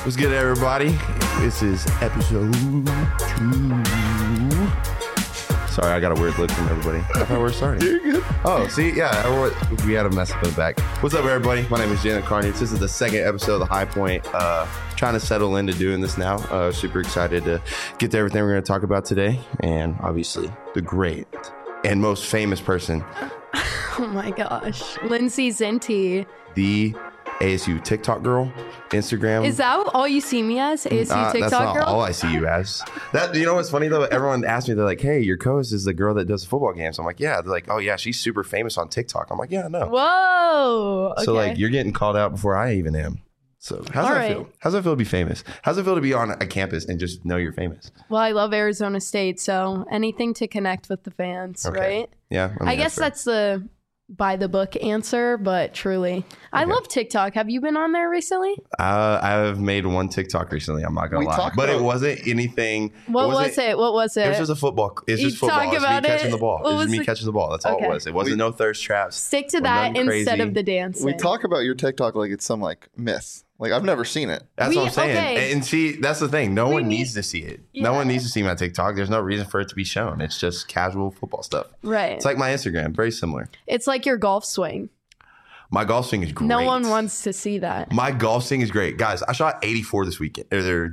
What's good, everybody? This is episode 2. Sorry, I got a weird look from everybody. I thought we were starting. You're good. Oh, see? Yeah, we had a mess up in the back. What's up, everybody? My name is Janet Carnage. This is the second episode of The High Point. Trying to settle into doing this now. Super excited to get to everything we're going to talk about today. And obviously, the great and most famous person. Oh my gosh. Lindsay Zinti. The ASU TikTok girl, Instagram. Is that all you see me as? ASU TikTok that's not girl? all I see you as. That, you know what's funny though? Everyone asks me, they're like, hey, your co-host is the girl that does the football games. I'm like, yeah. They're like, oh yeah, she's super famous on TikTok. I'm like, yeah, no. Whoa. Okay. So like, you're getting called out before I even am. So how's that feel? How's that feel to be famous? How's it feel to be on a campus and just know you're famous? Well, I love Arizona State, so anything to connect with the fans, right? Yeah. I guess that's the by the book answer, but truly, I love TikTok. Have you been on there recently? I've made one TikTok recently. I'm not gonna lie, but it wasn't anything. What was it? It was just a football. It's just football. It's me catching the ball. It's just me catching the ball. That's all it was. It wasn't no thirst traps. Stick to that instead of the dancing. We talk about your TikTok like it's some like myth. Like I've never seen it. That's what I'm saying. Okay. And see, that's the thing. No one needs to see it. Yeah. No one needs to see my TikTok. There's no reason for it to be shown. It's just casual football stuff. Right. It's like my Instagram. Very similar. It's like your golf swing. My golf swing is great. No one wants to see that. My golf swing is great. Guys, I shot 84 this week.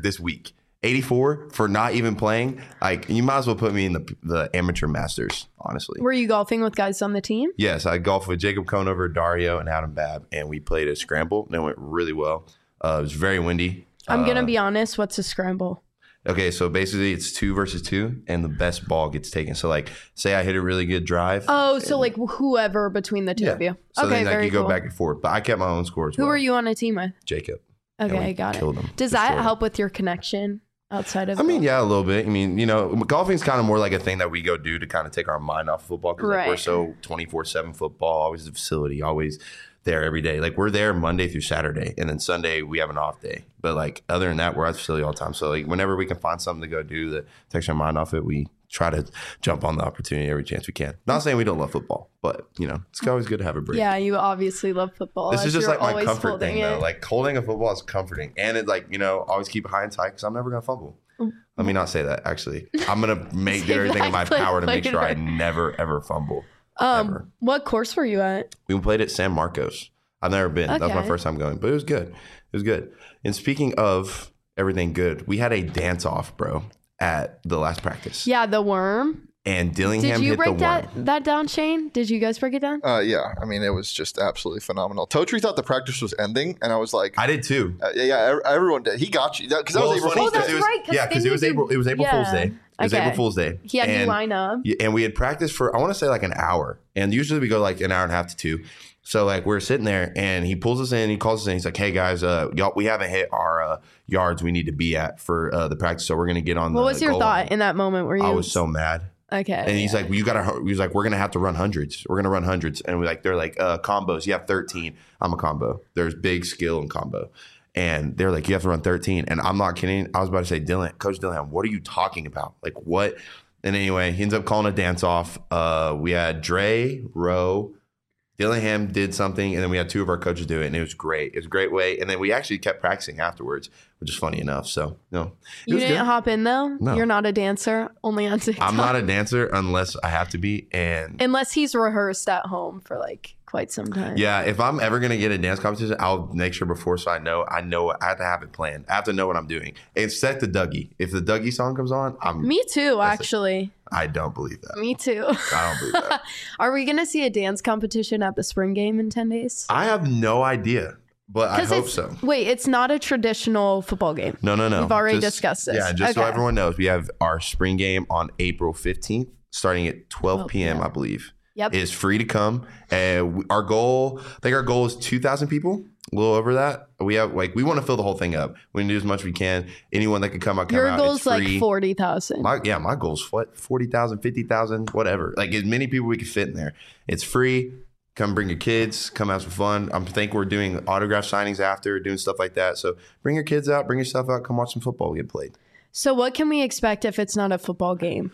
84 for not even playing. Like, you might as well put me in the amateur masters, honestly. Were you golfing with guys on the team? Yes, I golfed with Jacob Conover, Dario, and Adam Babb, and we played a scramble, and it went really well. It was very windy. I'm going to be honest. What's a scramble? Okay, so basically it's 2 versus 2, and the best ball gets taken. So, like, say I hit a really good drive. Oh, so like whoever between the two of you. So okay, then like, you go back and forth. But I kept my own score as well. Who were you on a team with? Jacob. Okay, got it. Does that help with your connection outside of I mean, yeah, a little bit. I mean, you know, golfing's kind of more like a thing that we go do to kind of take our mind off football. Because like, we're so 24/7 football, always the facility, always there every day. Like, we're there Monday through Saturday, and then Sunday we have an off day. But like, other than that, we're at the facility all the time. So like, whenever we can find something to go do that takes our mind off it, we try to jump on the opportunity every chance we can. Not saying we don't love football, but you know, it's always good to have a break. Yeah, you obviously love football. This is just like my comfort thing though. Like, holding a football is comforting, and it, like, you know, always keep it high and tight because I'm never gonna fumble. Let me not say that. Actually, I'm gonna do everything in my power to make sure I never ever fumble. Ever. What course were you at? We played at San Marcos. I've never been. That was my first time going, but it was good. It was good. And speaking of everything good, we had a dance off, bro, at the last practice. Yeah, the worm. And Dillingham hit the worm. Did you break that down, Shane? Did you guys break it down? Yeah. I mean, it was just absolutely phenomenal. Totri thought the practice was ending, and I was like, I did too. Everyone did. He got you because that was April Fool's Day. That's right. Yeah, because it was April Fool's Day. It was April Fool's Day. He had you line up. And we had practiced for, I want to say, like an hour. And usually we go like an hour and a half to 2. So like, we're sitting there and he pulls us in, he calls us in, he's like, hey guys, y'all, we haven't hit our yards we need to be at for the practice. So we're going to get on What was your thought in that moment? Were you? I was so mad. Okay. And he's like, well, he's like, we're going to have to run hundreds. We're going to run hundreds. And they're like, combos. You have 13. I'm a combo. There's big skill in combo. And they're like, you have to run 13. And I'm not kidding. I was about to say, Coach Dillingham, what are you talking about? Like, what? And anyway, he ends up calling a dance off. We had Dre, Rowe, Dillingham did something, and then we had 2 of our coaches do it, and it was great. It was a great way. And then we actually kept practicing afterwards, which is funny enough. So, no. You didn't hop in, though? No. You're not a dancer, only on TikTok? I'm not a dancer unless I have to be. And unless he's rehearsed at home for, like, quite some time. Yeah, if I'm ever going to get a dance competition, I'll make sure before so I know I have to have it planned. I have to know what I'm doing. And set the Dougie. If the Dougie song comes on, Me too, actually. I don't believe that. Me too. I don't believe that. Are we going to see a dance competition at the spring game in 10 days? I have no idea, but I hope so. Wait, it's not a traditional football game. No. We've already discussed this. Yeah, just so everyone knows, we have our spring game on April 15th, starting at 12 p.m., I believe. Yep. It's free to come. And our goal is 2,000 people. A little over that. We want to fill the whole thing up. We can do as much as we can. Anyone that could come out, Your goal's like 40,000. My goal's what? 40,000, 50,000, whatever. Like, as many people we can fit in there. It's free. Come bring your kids. Come have some fun. I think we're doing autograph signings after, doing stuff like that. So bring your kids out. Bring yourself out. Come watch some football get played. So what can we expect if it's not a football game?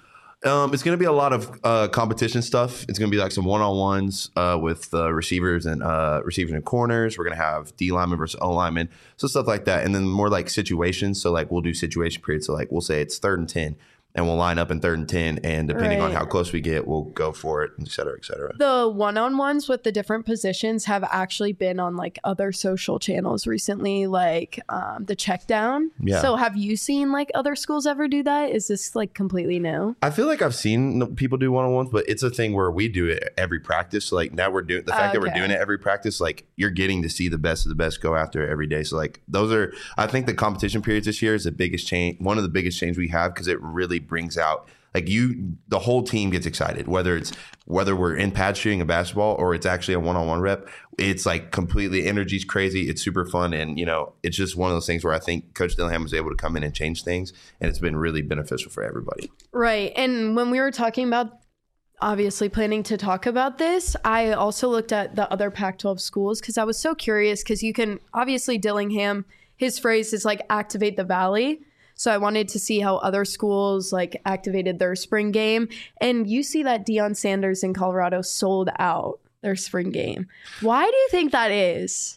It's going to be a lot of competition stuff. It's going to be like some one-on-ones with receivers and corners. We're going to have D lineman versus O lineman, so stuff like that. And then more like situations. So like we'll do situation periods. So like we'll say it's 3rd and 10. And we'll line up in 3rd and 10, and depending on how close we get, we'll go for it, et cetera, et cetera. The one-on-ones with the different positions have actually been on like other social channels recently, like the check down. Yeah. So have you seen like other schools ever do that? Is this like completely new? I feel like I've seen people do one-on-ones, but it's a thing where we do it every practice. So like now we're doing the fact that we're doing it every practice, like you're getting to see the best of the best go after it every day. So like those are, I think the competition periods this year is the biggest change, one of the biggest change we have, because it really brings out like the whole team gets excited, whether we're in pad shooting a basketball or it's actually a one-on-one rep. It's like completely, energy's crazy. It's super fun. And, it's just one of those things where I think Coach Dillingham was able to come in and change things. And it's been really beneficial for everybody. Right. And when we were talking about obviously planning to talk about this, I also looked at the other Pac-12 schools because I was so curious, because you can obviously Dillingham, his phrase is like activate the valley. So I wanted to see how other schools like activated their spring game. And you see that Deion Sanders in Colorado sold out their spring game. Why do you think that is?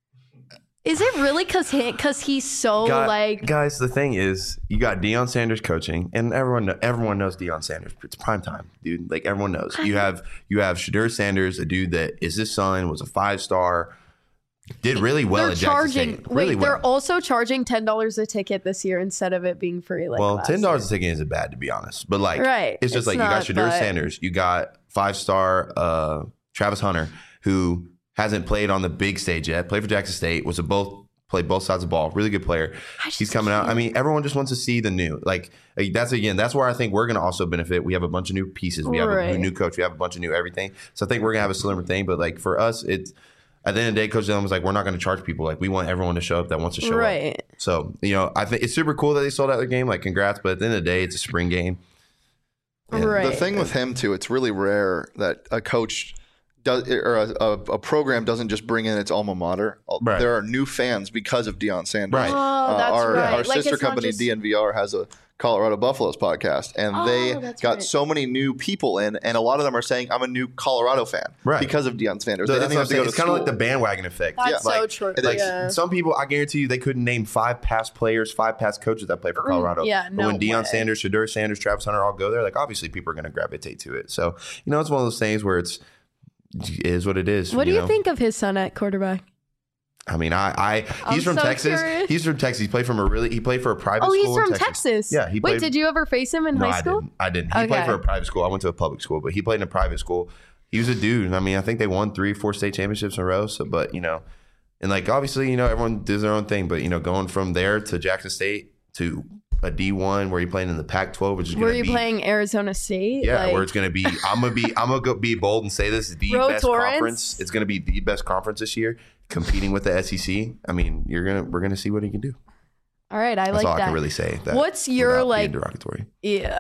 Is it really because he's so Guys, the thing is, you got Deion Sanders coaching, and everyone knows Deion Sanders. It's prime time, dude. Like everyone knows. You have Shedeur Sanders, a dude that is his son, was a 5-star. Did really well at Jackson State. They're also charging $10 a ticket this year instead of it being free. Like $10 a ticket isn't bad, to be honest. But it's just like you got Shedeur Sanders, you got 5-star Travis Hunter, who hasn't played on the big stage yet. Played for Jackson State, played both sides of the ball. Really good player. He's coming out. I mean, everyone just wants to see the new. That's where I think we're going to also benefit. We have a bunch of new pieces. We have a new coach. We have a bunch of new everything. So I think we're going to have a similar thing. But for us, it's. At the end of the day, Coach Dillon was like, we're not going to charge people. Like, we want everyone to show up that wants to show up. So, I think it's super cool that they sold out their game. Like, congrats. But at the end of the day, it's a spring game. And the thing with him, too, it's really rare that a coach does, or a program doesn't just bring in its alma mater. Right. There are new fans because of Deion Sanders. Right. Oh, that's right. Our sister company, DNVR, has a Colorado Buffaloes podcast, and they got so many new people in, and a lot of them are saying, I'm a new Colorado fan because of Deion Sanders. That's what I'm saying. It's kind of like the bandwagon effect. That's so true. Some people, I guarantee you, they couldn't name 5 past players, 5 past coaches that play for Colorado. Yeah, but when Deion Sanders, Shedeur Sanders, Travis Hunter all go there, obviously people are going to gravitate to it. So, it's one of those things where it is what it is. What do you think of his son at quarterback? I mean, he's from Texas. Curious. He's from Texas. He played for a private school. Oh, he's in from Texas. Yeah. Wait, did you ever face him in high school? I didn't. He played for a private school. I went to a public school, but he played in a private school. He was a dude. I mean, I think they won 3-4 state championships in a row. So, but and obviously, everyone does their own thing. But going from there to Jackson State to a D1 where you're playing in the Pac-12, which is were you playing Arizona State? Yeah, where it's going to be. I'm gonna go be bold and say this is the best conference. It's going to be the best conference this year, competing with the SEC. I mean, we're gonna see what he can do. All right, That's all I can really say. What's your derogatory? Yeah.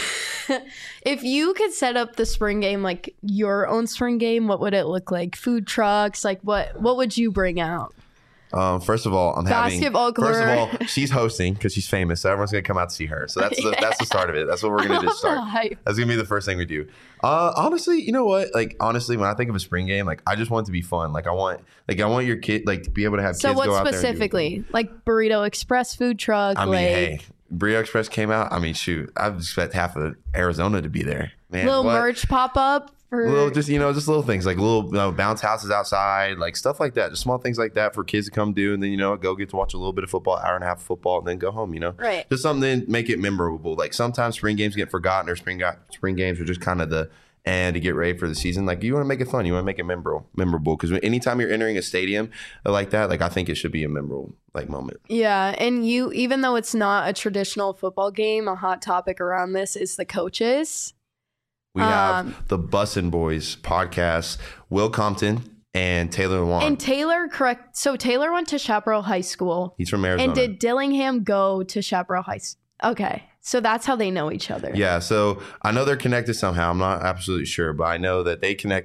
If you could set up the spring game, your own spring game, what would it look like? Food trucks, what would you bring out? First of all, basketball court. First of all, she's hosting because she's famous, so everyone's gonna come out to see her. So that's the start of it. That's what we're gonna just start. That's gonna be the first thing we do. Honestly, you know what? Honestly, when I think of a spring game, I just want it to be fun. I want your kid to be able to have kids go out there. So what specifically? Burrito Express food truck. I mean, hey, Burrito Express came out. I mean, shoot, I expect half of Arizona to be there. Man, little merch pop up. Just little things like little bounce houses outside, stuff like that. Just small things like that for kids to come do, and then go get to watch a little bit of football, hour and a half of football, and then go home. Right? Just something to make it memorable. Sometimes spring games get forgotten, or spring games are just kind of the and to get ready for the season. You want to make it fun, you want to make it memorable. Because anytime you're entering a stadium like that, I think it should be a memorable moment. Yeah, and even though it's not a traditional football game, a hot topic around this is the coaches. We have the Bussin' Boys podcast, Will Compton and Taylor Wan. And Taylor, correct. So Taylor went to Chaparral High School. He's from Arizona. And did Dillingham go to Chaparral High School? Okay. So that's how they know each other. Yeah. So I know they're connected somehow. I'm not absolutely sure, but I know that they connected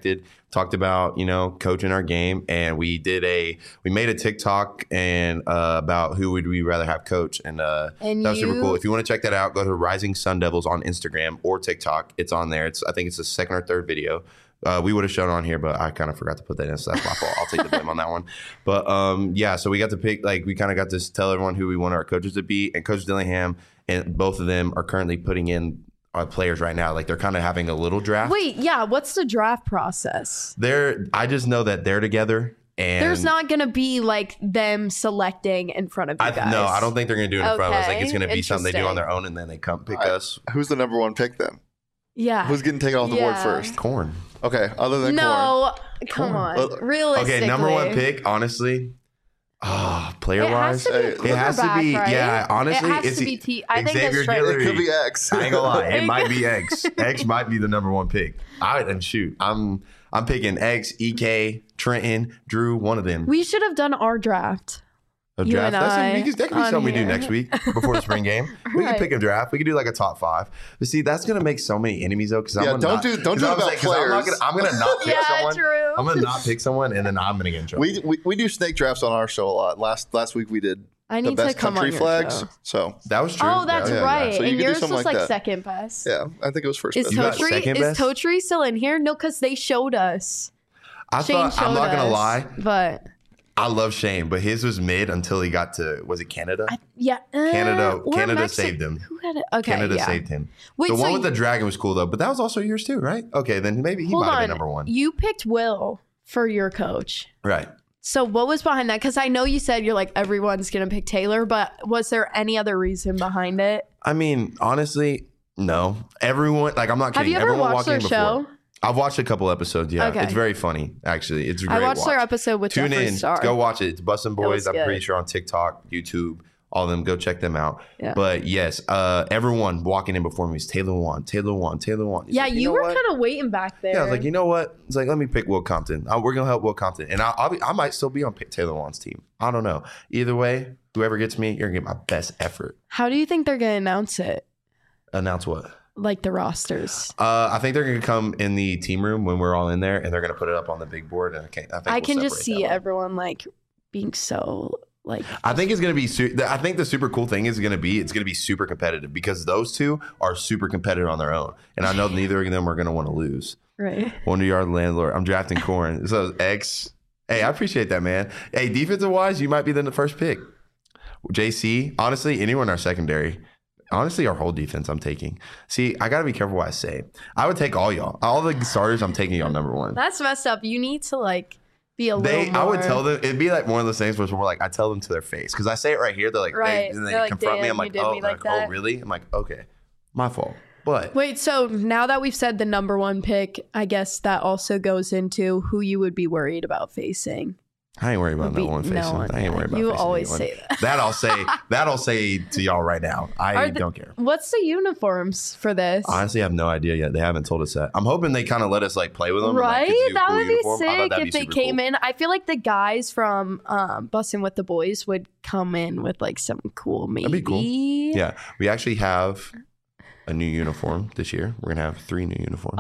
talked about, coaching our game, and we made a TikTok and about who would we rather have coach, and that was super cool. If you want to check that out, go to Rising Sun Devils on Instagram or TikTok. It's on there. I think it's the second or third video. We would have shown on here, but I kind of forgot to put that in, so that's my fault. I'll take the blame on that one. But so we got to pick, we kind of got to tell everyone who we want our coaches to be, and Coach Dillingham and both of them are currently putting in players right now. They're kind of having a little draft. Wait, yeah, what's the draft process? I just know that they're together. And there's not going to be them selecting in front of you guys. No, I don't think they're going to do it in front of us. It's going to be something they do on their own, and then they come pick us. Who's the number one pick then? Yeah. Who's getting taken off the board first? Corn. Okay, other than corn. Come on. Realistically. Okay, number one pick, honestly. Player-wise, it has to be. Right? Yeah, honestly, it has to be I think Xavier that's right. Guillory. It could be X. I ain't gonna lie, it might be X. X might be the number one pick. I'm picking X, EK, Trenton, Drew, one of them. We should have done our draft. A draft? That could be something we do next week before the spring game. We can pick a draft. We could do a top 5. But see, that's gonna make so many enemies though. Because don't do it about players. I'm gonna not pick someone. True. I'm gonna not pick someone, and then I'm gonna get in trouble. We do snake drafts on our show a lot. Last week we did the best country flags. So that was true. Oh, that's right. So and yours was like second best. Yeah, I think it was first best. Is Totri still in here? No, because they showed us. I'm not gonna lie, but I love Shane, but his was mid until he got to, was it Canada? Canada saved him. Who had it? Okay, Canada saved him. Wait, the one with the dragon was cool though, but that was also yours too, right? Okay, then maybe he might have been number one. You picked Will for your coach. Right. So what was behind that? Because I know you said you're everyone's going to pick Taylor, but was there any other reason behind it? I mean, honestly, no. Everyone, I'm not kidding. Have you ever watched their show? I've watched a couple episodes. Yeah, okay. It's very funny. Actually, it's a great. I watched their episode with Tune in, Star. go watch it. It's Bussin' Boys. I'm pretty sure on TikTok, YouTube, all of them. Go check them out. Yeah. But yes, everyone walking in before me is Taylor won. Yeah, you were kind of waiting back there. Yeah, I was like, you know what? It's let me pick Will Compton. We're gonna help Will Compton, and I might still be on Taylor Wan's team. I don't know. Either way, whoever gets me, you're gonna get my best effort. How do you think they're gonna announce it? Announce what? The rosters. I think they're going to come in the team room when we're all in there, and they're going to put it up on the big board. And I can just see everyone being so I think it's going to be. I think the super cool thing is going to be it's going to be super competitive because those two are super competitive on their own, and I know neither of them are going to want to lose. Right. 100-yard landlord. I'm drafting Corn. So X. Hey, I appreciate that, man. Hey, defensive wise, you might be the first pick. JC. Honestly, anyone in our secondary. Honestly, our whole defense I'm taking. See, I got to be careful what I say. I would take all y'all. All the starters, I'm taking y'all number one. That's messed up. You need to be a little more. I would tell them, it'd be one of those things where I tell them to their face. Because I say it right here. They're right. they confront me. I'm oh, really? I'm okay. My fault. But wait, so now that we've said the number one pick, I guess that also goes into who you would be worried about facing. I ain't worried about no one facing. I ain't worried about you facing always anyone. say that. That'll say to y'all right now. I don't care. What's the uniforms for this? Honestly, I have no idea yet. They haven't told us that. I'm hoping they kind of let us play with them. Right? That would be sick if they came in. I feel like the guys from Bussin' with the Boys would come in with something cool. Maybe. That'd be cool. Yeah, we actually have a new uniform this year. We're gonna have 3 new uniforms.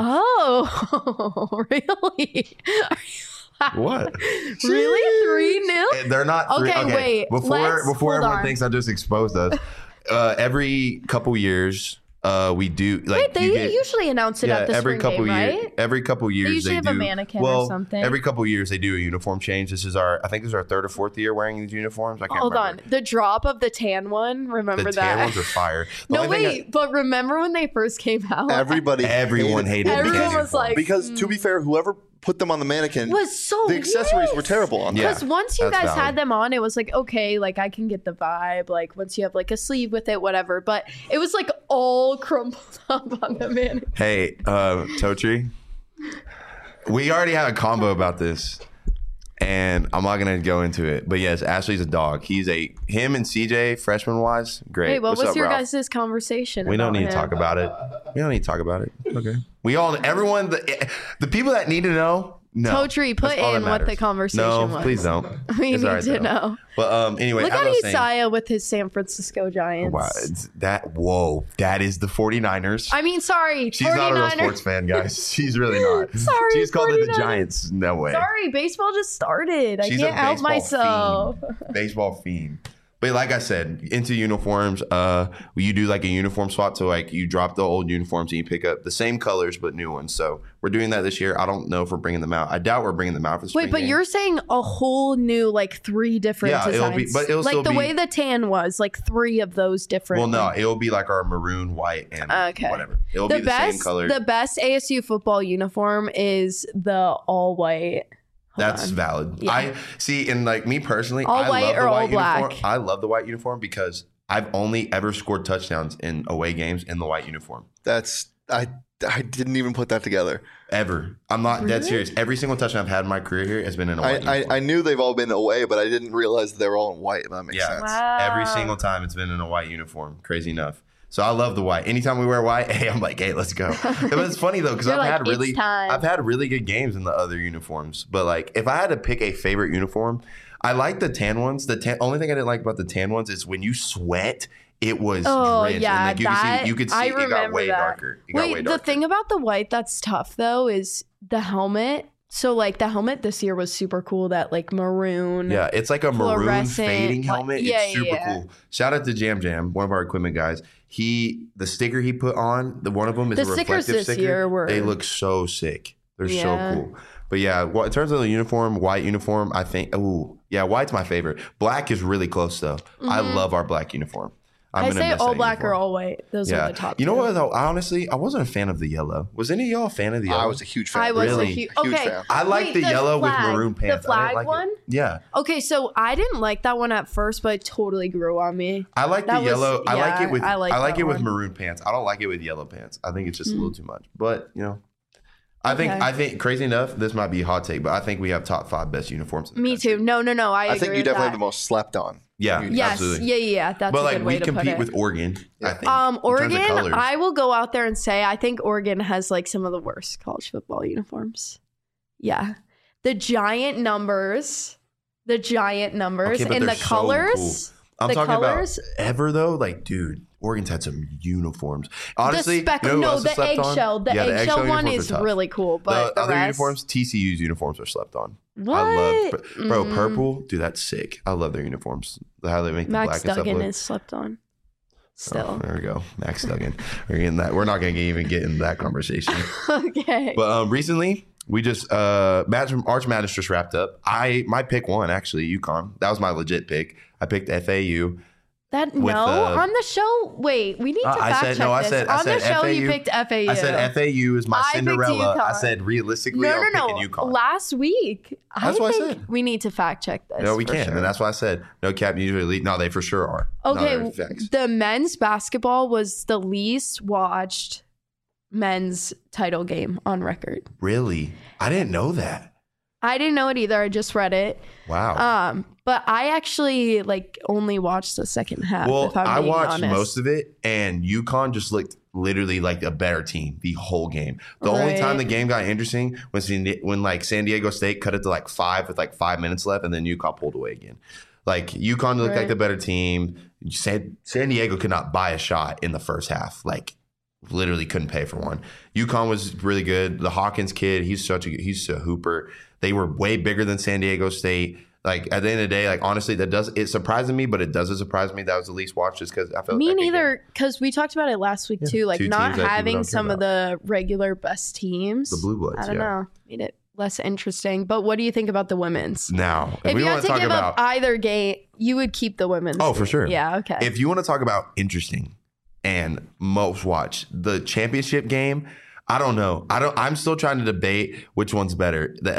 Oh, really? What? Really? 3 new? They're not 3. Okay, wait. Before everyone thinks I just exposed us, every couple years we do wait, they usually announce it at the spring game, right? Every couple years they usually have a mannequin or something. Every couple years they do a uniform change. I think this is our 3rd or 4th year wearing these uniforms. I can't remember. Hold on. The drop of the tan one, remember that? The tan ones are fire. But remember when they first came out? Everyone hated it. Everyone was like... Because to be fair, whoever put them on the mannequin was so the accessories were terrible on them. Because once you guys had them on, it was okay, I can get the vibe. Once you have a sleeve with it, whatever. But it was all crumpled up on the mannequin. Hey, Totri, we already had a combo about this, and I'm not gonna go into it. But yes, Ashley's a dog. Him and CJ, freshman wise, great. Hey, what was your guys' conversation? We don't need to talk about it. We don't need to talk about it. Okay. Everyone, the people that need to know, No, Totri, put in what the conversation was. No, please don't. We need to know. But anyway, look at Isaiah with his San Francisco Giants. Wow, that is the 49ers. I mean, sorry, she's 49ers. Not a real sports fan, guys. She's really not. Sorry, she's called it the Giants. No way. Sorry, baseball just started. I can't help myself. Baseball fiend. But like I said, into uniforms, you do like a uniform swap. So like you drop the old uniforms and you pick up the same colors but new ones. So we're doing that this year. I don't know if we're bringing them out. I doubt we're bringing them out for the spring. Wait, but you're saying a whole new like 3 different designs. It'll like the way the tan was, like 3 of those different. Well, no, it'll be like our maroon, white, and whatever. It'll be the same color. The best ASU football uniform is the all white. That's valid. Yeah. I see, and like me personally, all white or all black. Uniform. I love the white uniform because I've only ever scored touchdowns in away games in the white uniform. I didn't even put that together. Ever. I'm not dead serious. Every single touchdown I've had in my career here has been in a white uniform. I knew they've all been away, but I didn't realize they were all in white. If that makes sense. Wow. Every single time it's been in a white uniform. Crazy enough. So I love the white. Anytime we wear white, I'm like, hey, let's go. But it's funny though, because I've had really good games in the other uniforms. But like, if I had to pick a favorite uniform, I like the tan ones. Only thing I didn't like about the tan ones is when you sweat, it was drenched. Yeah, and like you could see it got way darker. The thing about the white that's tough though is the helmet. So like the helmet this year was super cool. That like maroon. Yeah, it's like a maroon fading helmet. It's super cool. Shout out to Jam Jam, one of our equipment guys. The sticker he put on, one of them is a reflective sticker. They look so sick. They're so cool. But yeah, in terms of the uniform, white uniform, I think, white's my favorite. Black is really close though. Mm-hmm. I love our black uniform. I say all black or all white. Those are the top. You know what though? Honestly, I wasn't a fan of the yellow. Was any of y'all a fan of the yellow? I was a huge fan. I was a huge fan. I like the yellow with maroon pants. The flag one? Yeah. Okay, so I didn't like that one at first, but it totally grew on me. I like the yellow. I like it with maroon pants. I don't like it with yellow pants. I think it's just a little too much. But I think crazy enough, this might be a hot take, but I think we have top 5 best uniforms. Me too. No. I think you definitely have the most slept on. Yeah. Yes. Absolutely. Yeah. That's a good way to put it. But we compete with Oregon. I think. Oregon. I will go out there and say I think Oregon has like some of the worst college football uniforms. Yeah, the giant numbers, and the colors. So cool. I'm talking about ever though. Like, dude, Oregon's had some uniforms. Honestly, the eggshell. The eggshell one is really cool. But the other uniforms, TCU's uniforms are slept on. What? I love, purple. Dude, that's sick. I love their uniforms. How they make Max the black Duggan and is slept on. Still, there we go. Max Duggan. We're getting that. We're not going to even get into that conversation. Okay. But recently, we just Arch Madness just wrapped up. My pick won actually. UConn. That was my legit pick. I picked FAU. On the show. Wait, we need to fact check this. On the show, you picked FAU. I said FAU is my Cinderella. I said realistically, I'm picking UConn. Last week, that's what I said. We need to fact check this. No, we can't, and that's why I said no cap usually elite. No, they for sure are. Okay, the men's basketball was the least watched men's title game on record. Really? I didn't know that. I didn't know it either. I just read it. Wow. But I actually only watched the second half. Well, I watched honest. most of it, and UConn just looked literally like a better team the whole game. The only time the game got interesting was when San Diego State cut it to 5 with 5 minutes left, and then UConn pulled away again. Like UConn looked like the better team. San Diego could not buy a shot in the first half. Literally couldn't pay for one. UConn was really good. The Hawkins kid, he's a hooper. They were way bigger than San Diego State. At the end of the day, honestly, it surprised me, but it doesn't surprise me that was the least watched just because I felt me neither. Because we talked about it last week too, not having some of the regular best teams. The Blue Bloods, I don't know, made it less interesting. But what do you think about the women's? Now, if you had to give up either game, you would keep the women's. Oh, for sure. Yeah, okay. If you want to talk about interesting and most watched, the championship game. I don't know. I'm still trying to debate which one's better, the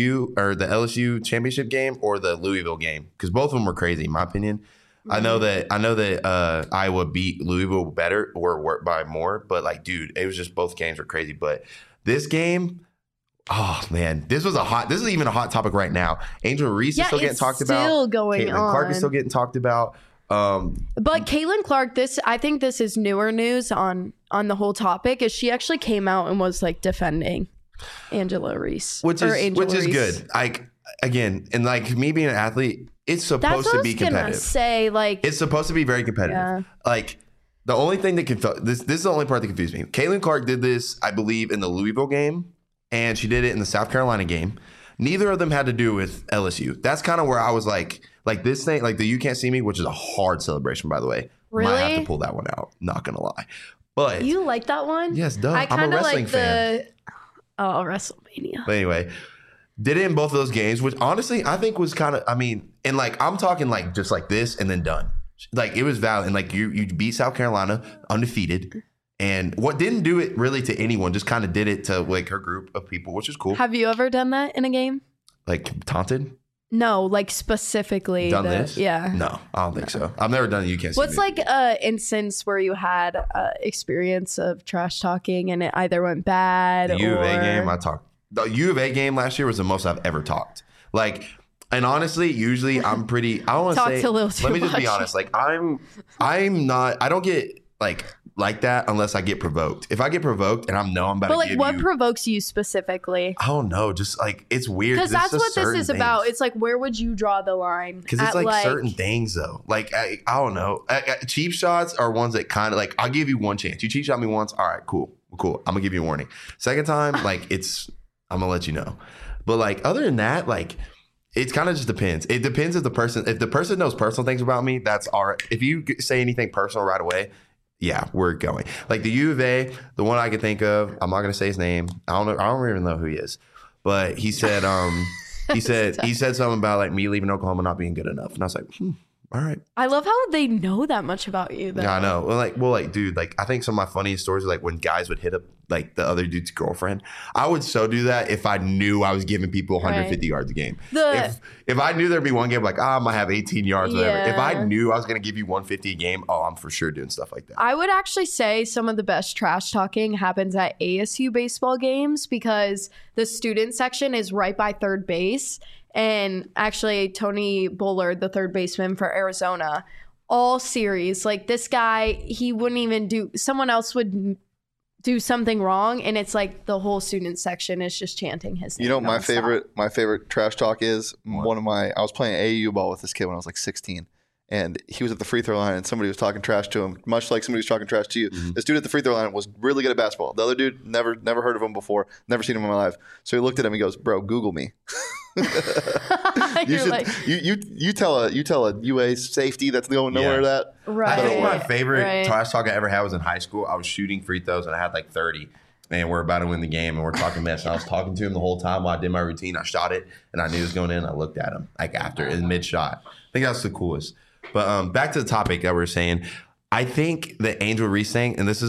LSU championship game or the Louisville game, because both of them were crazy in my opinion. Mm-hmm. I know that Iowa beat Louisville better or by more, but dude, it was just both games were crazy. But this game, oh man, this is even a hot topic right now. Angel Reese is still getting talked about. Still going Caitlin on. Clark is still getting talked about. But Caitlin Clark, I think this is newer news on the whole topic, is she actually came out and was defending Angela Reese. Which is good. Like, again, and like me being an athlete, it's supposed to be competitive. Say, like, it's supposed to be very competitive. Yeah. Like, the only thing that this is the only part that confused me. Caitlin Clark did this, I believe, in the Louisville game, and she did it in the South Carolina game. Neither of them had to do with LSU. That's kind of where I was like this thing, like the You Can't See Me, which is a hard celebration, by the way. Really? Might have to pull that one out. Not gonna lie. But you like that one? Yes, duh. I'm a wrestling fan. Oh, WrestleMania. But anyway, did it in both of those games, which honestly I think was kind of, I mean, and like I'm talking like just like this and then done. Like it was valid. And like you beat South Carolina undefeated. And what didn't do it really to anyone, just kind of did it to like her group of people, which is cool. Have you ever done that in a game? Like taunted? No, like specifically. Done this? Yeah. No, I don't think so. I've never done it. You can't see What's me. like an instance where you had experience of trash talking and it either went bad the U of A game, I talked. The U of A game last year was the most I've ever talked. Like, and honestly, usually I'm pretty, I don't want to say, a little too let me just much. be honest. Like I'm not, I don't get like that unless I get provoked. If I get provoked and I know I'm about to give you. But like what provokes you specifically? I don't know. Just like, it's weird. Because that's what this is about. It's like, where would you draw the line? Because it's like certain things though. Like, I don't know. Cheap shots are ones that kind of like, I'll give you one chance. You cheap shot me once. All right, cool. I'm going to give you a warning. Second time, like I'm going to let you know. But like, other than that, like, it kind of just depends. It depends if the person knows personal things about me, that's all right. If you say anything personal right away, yeah, we're going. Like the U of A, the one I can think of, I'm not going to say his name. I don't even know who he is. But he said, he said something about like me leaving Oklahoma not being good enough. And I was like, all right. I love how they know that much about you though. Yeah, I know. Well, dude, like I think some of my funniest stories are like when guys would hit up like the other dude's girlfriend. I would so do that if I knew I was giving people 150 yards a game. If I knew there'd be one game like, I might have 18 yards, whatever. If I knew I was going to give you 150 a game, I'm for sure doing stuff like that. I would actually say some of the best trash talking happens at ASU baseball games because the student section is right by third base. And actually, Tony Bullard, the third baseman for Arizona, all series, like this guy, he wouldn't even someone else would do something wrong. And it's like the whole student section is just chanting his name. You know, my favorite trash talk is I was playing AAU ball with this kid when I was like 16. And he was at the free throw line and somebody was talking trash to him, much like somebody was talking trash to you. Mm-hmm. This dude at the free throw line was really good at basketball. The other dude, never heard of him before, never seen him in my life. So he looked at him and he goes, bro, Google me. you tell a UA safety that's going nowhere that. Right. I think my favorite trash talk I ever had was in high school. I was shooting free throws and I had like 30. And we're about to win the game and we're talking mess. And I was talking to him the whole time while I did my routine. I shot it and I knew it was going in. I looked at him like after in mid shot. I think that's the coolest. But back to the topic that we were saying. I think the Angel Reese thing, and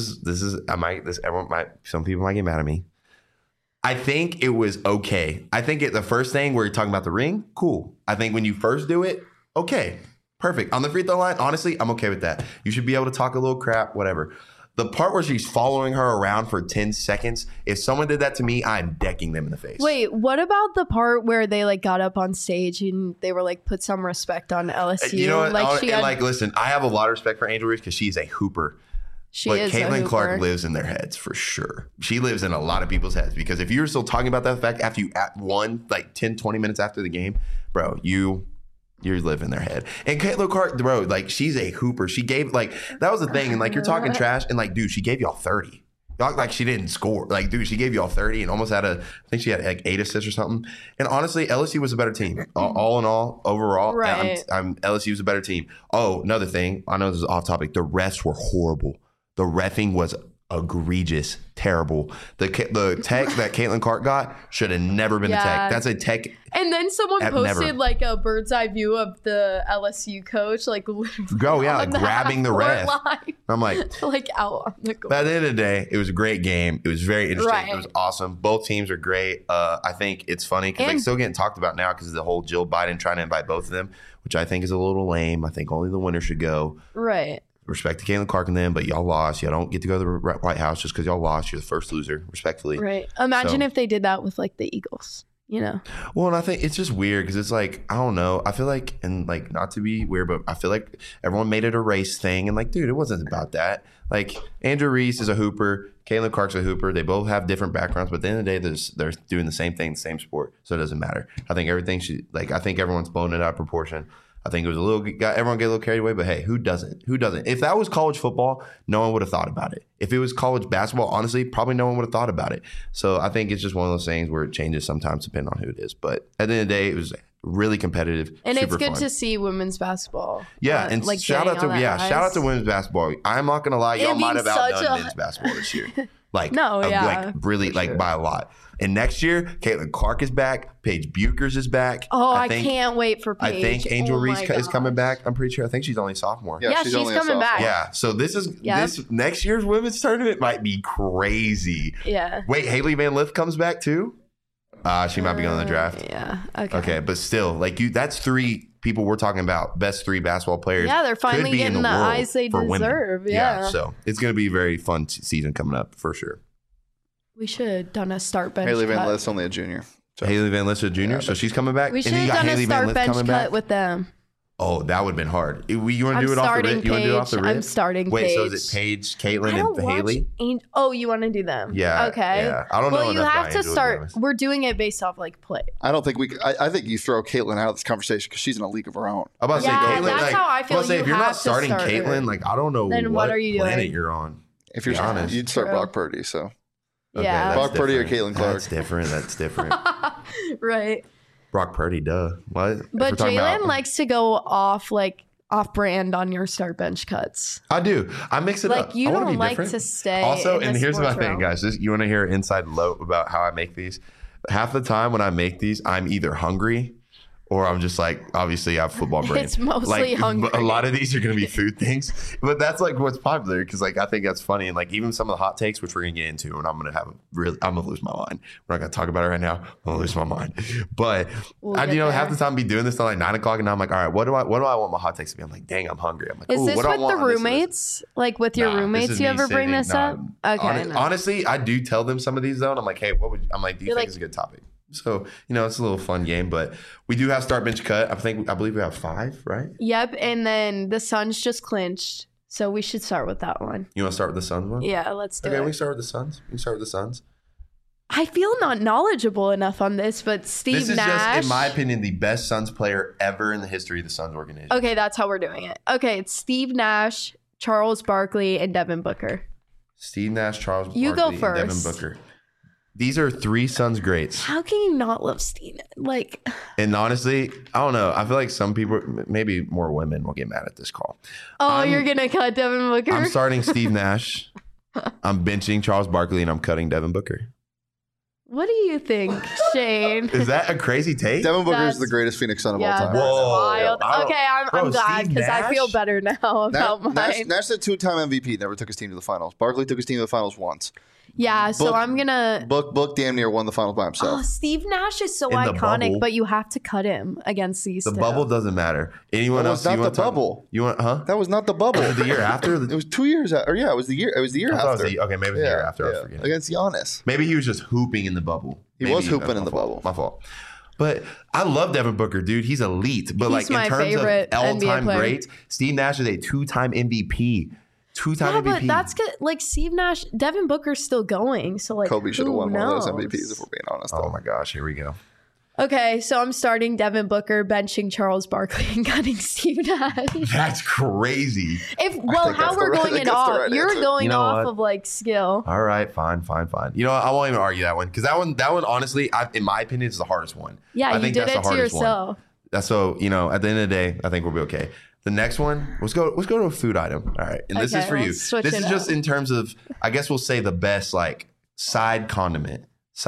some people might get mad at me. I think it was okay. I think the first thing where you're talking about the ring, cool. I think when you first do it, okay, perfect. On the free throw line, honestly, I'm okay with that. You should be able to talk a little crap, whatever. The part where she's following her around for 10 seconds, if someone did that to me, I'm decking them in the face. Wait, what about the part where they like got up on stage and they were like, put some respect on LSU? You know what? Listen, I have a lot of respect for Angel Reese because she's a hooper. But Caitlin Clark lives in their heads for sure. She lives in a lot of people's heads because if you're still talking about that fact after you won like 10, 20 minutes after the game, bro, you're living in their head. And Caitlin Clark, bro, like she's a hooper. She gave like that was the thing. And like you're talking trash and like, dude, she gave y'all 30. Y'all like she didn't score. Like, dude, she gave y'all 30 and almost I think she had like 8 assists or something. And honestly, LSU was a better team. All in all, overall, right. LSU was a better team. Oh, another thing. I know this is off topic. The refs were horrible. The reffing was egregious, terrible. The tech that Caitlin Clark got should have never been a tech. That's a tech. And then someone posted like a bird's eye view of the LSU coach, like literally like grabbing the ref. I'm like out on the goal. But at the end of the day, it was a great game. It was very interesting. Right. It was awesome. Both teams are great. I think it's funny because they're still getting talked about now because of the whole Jill Biden trying to invite both of them, which I think is a little lame. I think only the winner should go. Right. Respect to Caitlin Clark and them, but y'all lost. Y'all don't get to go to the White House just because y'all lost. You're the first loser, respectfully. Right. Imagine if they did that with like the Eagles. you know. Well, and I think it's just weird because it's like, I don't know. I feel like, and like, not to be weird, but I feel like everyone made it a race thing. And like, dude, it wasn't about that. Like, Andrew Reese is a hooper. Caitlin Clark's a hooper. They both have different backgrounds, but at the end of the day, they're doing the same thing, the same sport. So it doesn't matter. I think I think everyone's blown it out of proportion. I think it was everyone get a little carried away, but hey, who doesn't? Who doesn't? If that was college football, no one would have thought about it. If it was college basketball, honestly, probably no one would have thought about it. So I think it's just one of those things where it changes sometimes depending on who it is. But at the end of the day, it was really competitive. And it's good fun to see women's basketball. Yeah, and like shout out to women's basketball. I'm not gonna lie, y'all might have outdone men's basketball this year. Like really like by a lot. And next year, Caitlin Clark is back. Paige Buchers is back. Oh, I can't wait for Paige. I think Angel Reese is coming back. I'm pretty sure. I think she's only a sophomore. Yeah, she's coming back. Yeah. So this next year's women's tournament might be crazy. Yeah. Wait, Haley Van Lith comes back too? She might be going to the draft. Yeah. Okay. Okay, but still, like that's 3 people we're talking about, best 3 basketball players. Yeah, they're finally getting the eyes they deserve. Yeah. So it's going to be a very fun season coming up for sure. We should have done a start bench Haley cut. Van Lith's only a junior. So. Haley Van Lith's a junior, so she's coming back. We should have done a start bench cut with them. Oh, that would have been hard. You want to do it off the rip? You want to do it off the rip? I'm starting Wait, Paige. so is it Paige, Caitlin, and Haley? You want to do them? Yeah. Okay. Yeah. I don't know. Well, you have to start. We're doing it based off like play. I don't think I think you throw Caitlin out of this conversation because she's in a league of her own. I'm about to say Caitlin. That's how I feel. If you're not starting Caitlin, like I don't know then what are you planet doing? you're on. If you're honest, you'd start Brock Purdy. So. Okay, yeah. Brock Purdy or Caitlin Clark. That's different. Right. Brock Purdy, duh. What? But Jalen likes to go off brand on your start bench cuts. I do. I mix it up. Like you don't like to stay. Also, in and the here's my sports thing, realm. guys. You want to hear an inside lope about how I make these? Half the time when I make these, I'm either hungry or I'm just like, obviously I have football brain. It's mostly hungry. A lot of these are going to be food things, but that's like what's popular because like I think that's funny. And like even some of the hot takes, which we're going to get into, and I'm going to lose my mind. We're not going to talk about it right now. I'm going to lose my mind. But half the time be doing this till like 9 o'clock, and now I'm like, all right, what do I want my hot takes to be? I'm like, dang, I'm hungry. I'm like, is this what do I with want the roommates? Like with your roommates, you ever bring this up? Okay. Honestly, I do tell them some of these though, and I'm like, hey, do you think it's a good topic? So, it's a little fun game, but we do have start bench cut. I believe we have 5, right? Yep. And then the Suns just clinched. So we should start with that one. You want to start with the Suns one? Yeah, let's do it. Okay, we can start with the Suns. I feel not knowledgeable enough on this, but Steve Nash. This is just, in my opinion, the best Suns player ever in the history of the Suns organization. Okay, that's how we're doing it. Okay, it's Steve Nash, Charles Barkley, and Devin Booker. Steve Nash, Charles Barkley, you go first. and Devin Booker. These are 3 Suns greats. How can you not love Steve? And honestly, I don't know. I feel like some people, maybe more women, will get mad at this call. You're gonna cut Devin Booker? I'm starting Steve Nash. I'm benching Charles Barkley, and I'm cutting Devin Booker. What do you think, Shane? Is that a crazy take? Devin Booker is the greatest Phoenix Sun of all time. That's wild. Okay, I'm glad because I feel better now about mine. Nash the 2-time MVP, never took his team to the finals. Barkley took his team to the finals once. Yeah, so I'm gonna Book damn near won the finals by himself. Oh, Steve Nash is so iconic, but you have to cut him against these. The bubble doesn't matter. Anyone else? That was not the bubble. You want? Huh? That was not the bubble. The year after. It was 2 years. It was the year. It was the year after. Okay, maybe it was the year after. I was forgetting. Against Giannis. Maybe he was just hooping in the bubble. He was hooping in the bubble. My fault. But I love Devin Booker, dude. He's elite. But he's in terms of all-time greats, Steve Nash is a 2-time MVP. 2-time MVP. But that's good. Like Steve Nash, Devin Booker's still going. So Kobe should have won one of those MVPs if we're being honest. Oh my gosh, here we go. Okay, so I'm starting Devin Booker, benching Charles Barkley, and cutting Steve Nash. That's crazy. How we're going it off? You're going off of skill. All right, fine. You know what? I won't even argue that one because that one, honestly, in my opinion, is the hardest one. Yeah, I think you did it to yourself. So at the end of the day, I think we'll be okay. The next one, let's go to a food item. All right, and this is for you. This is just in terms of, I guess we'll say the best side condiment.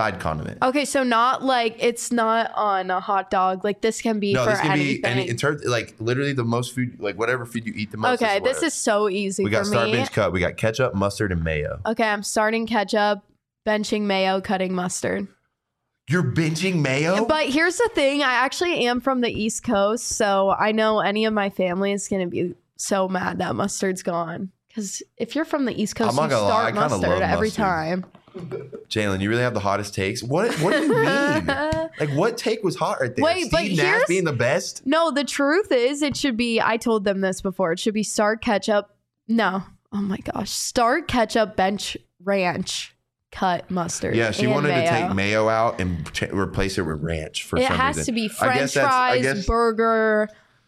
Okay, so not it's not on a hot dog. This can be for anything. In terms literally the most food, whatever food you eat the most. Okay, this is so easy. We got start bench cut. We got ketchup, mustard, and mayo. Okay, I'm starting ketchup, benching mayo, cutting mustard. You're benching mayo? But here's the thing. I actually am from the East Coast, so I know any of my family is going to be so mad that mustard's gone. Because if you're from the East Coast, you start mustard every time. Jalen, you really have the hottest takes? What do you mean? Like, what take was hot right there? Wait, but Steve Nash here's- being the best? No, the truth is it should be, I told them this before, it should be Stark ketchup. No. Oh my gosh. Stark ketchup, bench ranch, cut mustard. Yeah, she and wanted mayo. to take mayo out and replace it with ranch for It some has reason. to be I French guess that's- I fries, guess- burger.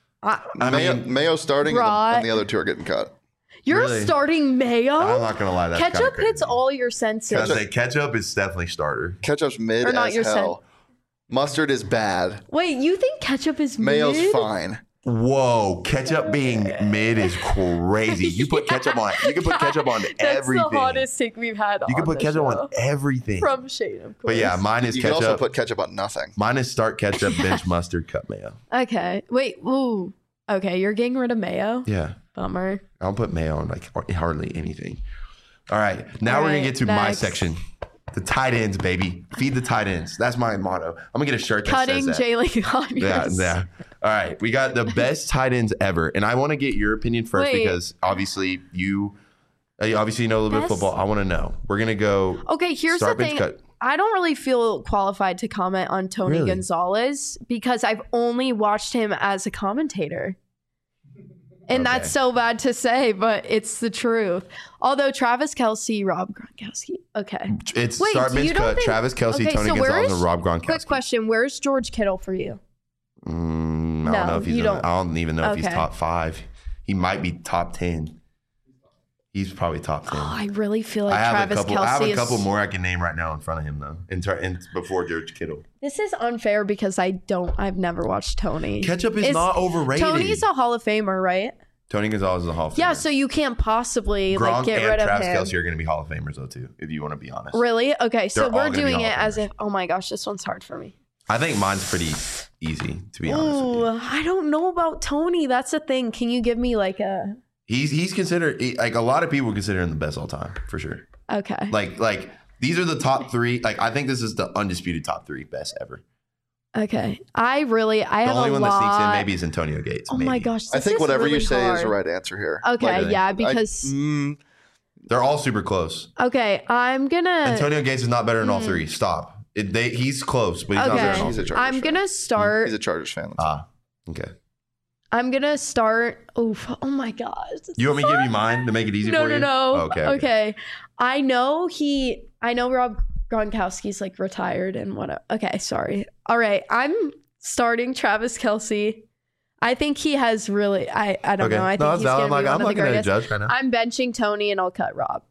Mayo starting Brat. and the other two are getting cut. You're Really? starting mayo? I'm not going to lie. That's kinda Ketchup crazy. hits all your senses. I was gonna say, ketchup is definitely starter. Ketchup's mid Or not as your hell. Mustard is bad. Wait, you think ketchup is Mayo's mid? fine. Whoa, ketchup being mid is crazy. You put ketchup on. You can put ketchup on That's everything. the hottest take we've had. You can on put the ketchup show. on everything. From Shane, of course. But yeah, mine is You can also ketchup. put ketchup on nothing. Mine is Stark ketchup, bench mustard, cut mayo. Okay. Wait. Ooh. Okay, you're getting rid of mayo. Yeah, Bummer. I don't put mayo on like hardly anything. All right, now All we're gonna right, get to my next. section. The tight ends, baby. Feed the tight ends. That's my motto. I'm gonna get a shirt that Cutting says that. Jalen Conyers. Yeah. All right. We got the best tight ends ever. And I want to get your opinion first Wait. because obviously you know a little bit of Best- football. I want to know. We're going to go. Okay, here's Start, the bench, thing. cut. I don't really feel qualified to comment on Tony Really? Gonzalez because I've only watched him as a commentator. And Okay. that's so bad to say, but it's the truth. Although Travis Kelce, Rob Gronkowski. Okay. It's Wait, start, so you bench, don't cut. think- Travis Kelce, Okay, Tony so Gonzalez, where's- and Rob Gronkowski. Quick question. Where's George Kittle for you? I don't No, know if he's. you don't. I don't even know if he's Okay. top 5. He might be top 10. He's probably top 10. Oh, I really feel like I have Travis a couple. Kelce I have a is... couple more I can name right now in front of him though. In before George Kittle. This is unfair because I've never watched Tony. Ketchup is not overrated. Tony's a Hall of Famer, right? Tony Gonzalez is a Hall of Famer. Yeah, so you can't possibly Gronk get and rid of Travis him. Kelce are going to be Hall of Famers though too. If you want to be honest. Really? Okay, so They're all we're gonna be doing Hall it of as Famers. if, oh my gosh, this one's hard for me. I think mine's pretty easy, to be honest with Ooh, you. I don't know about Tony. That's the thing. Can you give me like a, He's considered like a lot of people consider him the best all time for sure. okay. Like these are the top 3. Like I think this is the undisputed top 3 best ever. Okay. I have The only a one lot. that sneaks in maybe is Antonio Gates. Oh maybe. my gosh. I this think is whatever really you say is the hard. right answer here. Okay, Really? yeah, because They're all super close. okay, I'm gonna Antonio Gates is not better than all 3. Stop. He's close, but he's not better Okay. than all He's a 3. Chargers I'm fan. gonna start He's a Chargers fan. Okay. I'm gonna start. Oof! Oh my gosh! You want me to give you mine to make it easy No, for no, you? no. Okay. I know Rob Gronkowski's like retired and whatever. Okay, sorry. All right, I'm starting Travis Kelce. I think he has really. I don't know. I think No, he's that's gonna valid. be I'm one of the not going to greatest. judge right now. I'm benching Tony and I'll cut Rob.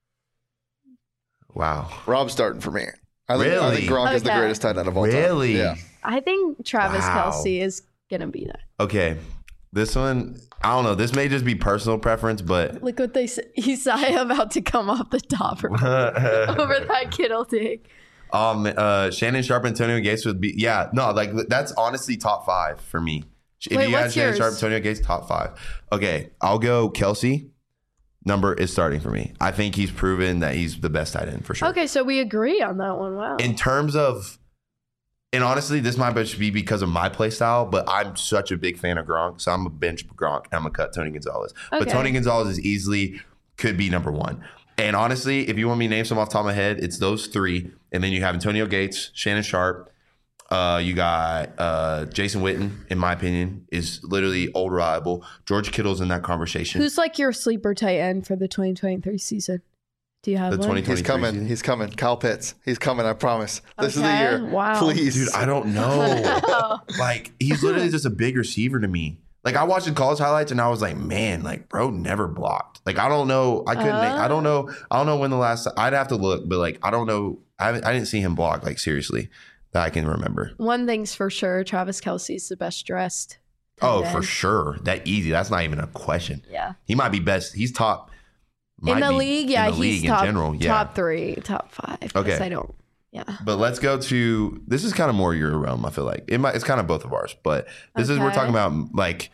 Wow. Rob's starting for me. I think Really? Gronk is the Okay. greatest tight end of all time. Really? Yeah. I think Travis Wow. Kelce is gonna be that. Okay. This one, I don't know. This may just be personal preference, but Look what they say. Isaiah about to come off the top over that Kittle take. Shannon Sharp, Antonio Gates would be like that's honestly top 5 for me. If Wait, you had what's Shannon yours? Sharp, Antonio Gates, top 5. Okay, I'll go Kelce. Number is starting for me. I think he's proven that he's the best tight end for sure. Okay, so we agree on that one. Wow. In terms of, and honestly, this might just be because of my play style, but I'm such a big fan of Gronk, so I'm a bench Gronk and I'm gonna cut Tony Gonzalez. But Okay. Tony Gonzalez is easily could be number 1. And honestly, if you want me to name some off the top of my head, it's those 3. And then you have Antonio Gates, Shannon Sharp. You got Jason Witten, in my opinion, is literally old reliable. George Kittle's in that conversation. Who's like your sleeper tight end for the 2023 season? Do you have The one? 2023 He's coming. season? He's coming. Kyle Pitts. He's coming. I promise. This is the Okay. year. Wow. Please. Dude, I don't know. Like, he's literally just a big receiver to me. Like, I watched the college highlights and I was like, man, like, bro never blocked. Like, I don't know. I couldn't. I don't know. I don't know when the last. I'd have to look, but like, I don't know. I didn't see him block. Like, seriously, that I can remember. One thing's for sure, Travis Kelce's the best dressed. tight Oh, end. for sure. That easy. That's not even a question. Yeah. He might be best. He's top. In might the be league, yeah, in the he's league top, in general. Yeah. top 3, top 5. Okay. Yes, I don't. Yeah. But let's go to this is kind of more your realm. I feel like it's kind of both of ours, but this is we're Okay. talking about like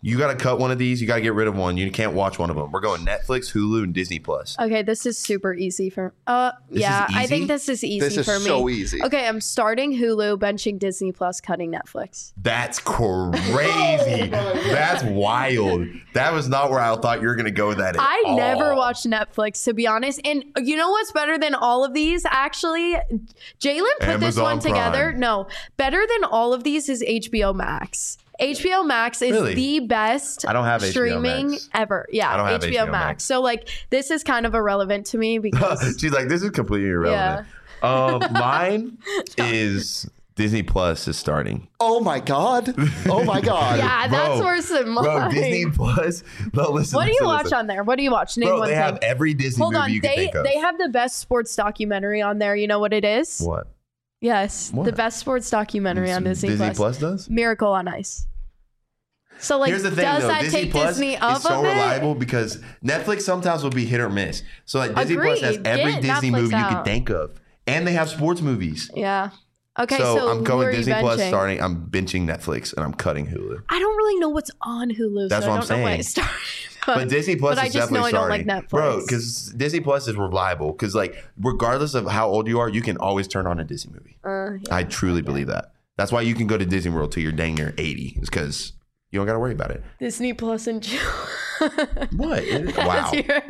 You got to cut one of these. You got to get rid of one. You can't watch one of them. We're going Netflix, Hulu, and Disney Plus. Okay, this is super easy for. Yeah, I think this is easy This is for me. so easy. Okay, I'm starting Hulu, benching Disney Plus, cutting Netflix. That's crazy. That's wild. That was not where I thought you were going to go with that. I never watched Netflix, to be honest. And you know what's better than all of these? Actually, Jalen put this Amazon one together. Prime. No, better than all of these is HBO Max. HBO Max is Really? the best I don't have HBO streaming Max. ever. Yeah, I don't have HBO HBO Max. Max. So like this is kind of irrelevant to me because She's like, this is completely irrelevant. Mine is Disney Plus is starting. Oh my god. Oh my god. yeah, that's Bro, worse than mine. Bro, Disney Plus. No, listen. What do you listen, watch listen. on there? What do you watch? Name Bro, one they thing. have every Disney Hold movie on, you can think of. they have the best sports documentary on there. You know what it is? What? Yes, What? the best sports documentary on Disney Plus does? Miracle on Ice. So like, Here's the thing, does though. that Disney take Plus Disney is up so of it? reliable because Netflix sometimes will be hit or miss. So like Disney Plus has Agreed. every Get Disney Netflix movie you out. could think of, and they have sports movies. Yeah. Okay, so I'm who going are you Disney Plus benching? starting. I'm benching Netflix and I'm cutting Hulu. I don't really know what's on Hulu. That's so what I I'm don't know why I saying. started. But Disney Plus but I is just know definitely I don't like starting, Netflix. bro. Because Disney Plus is reliable. Because like regardless of how old you are, you can always turn on a Disney movie. Yeah, I truly believe that. That's why you can go to Disney World till you're dang near 80. Is because you don't got to worry about it. Disney Plus and chill. What? Wow.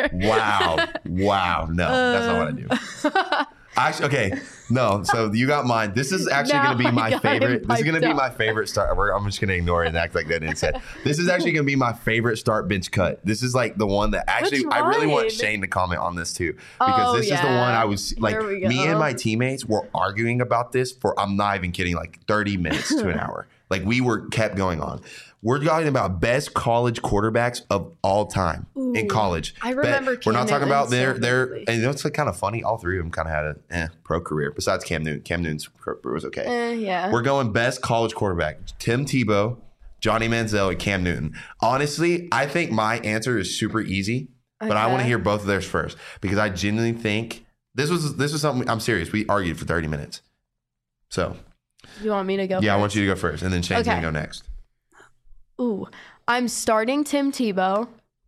Wow. No, that's not what I do. Actually, okay. No, so you got mine. This is actually No, going to be I my got favorite. him This is going to piped be up. my favorite start. I'm just going to ignore it and act like that didn't say. This is actually going to be my favorite start bench cut. This is like the one that actually Which I really want one? Shane to comment on this too because Oh, this is the one yeah. I was like Here we me and go. my teammates were arguing about this for I'm not even kidding like 30 minutes to an hour. Like we were kept going on. We're talking about best college quarterbacks of all time in Ooh, college. I remember We're not Cam talking about Newton so their vividly. and you know it's like kind of funny. All three of them kind of had a pro career. Besides Cam Newton, Cam Newton's career was okay. Yeah. We're going best college quarterback: Tim Tebow, Johnny Manziel, and Cam Newton. Honestly, I think my answer is super easy, but I want to Okay. hear both of theirs first because I genuinely think this was something. I'm serious. We argued for 30 minutes. So You want me to go? yeah, I first? want you to go first, and then Shane's Okay. gonna go next. Ooh, I'm starting Tim Tebow.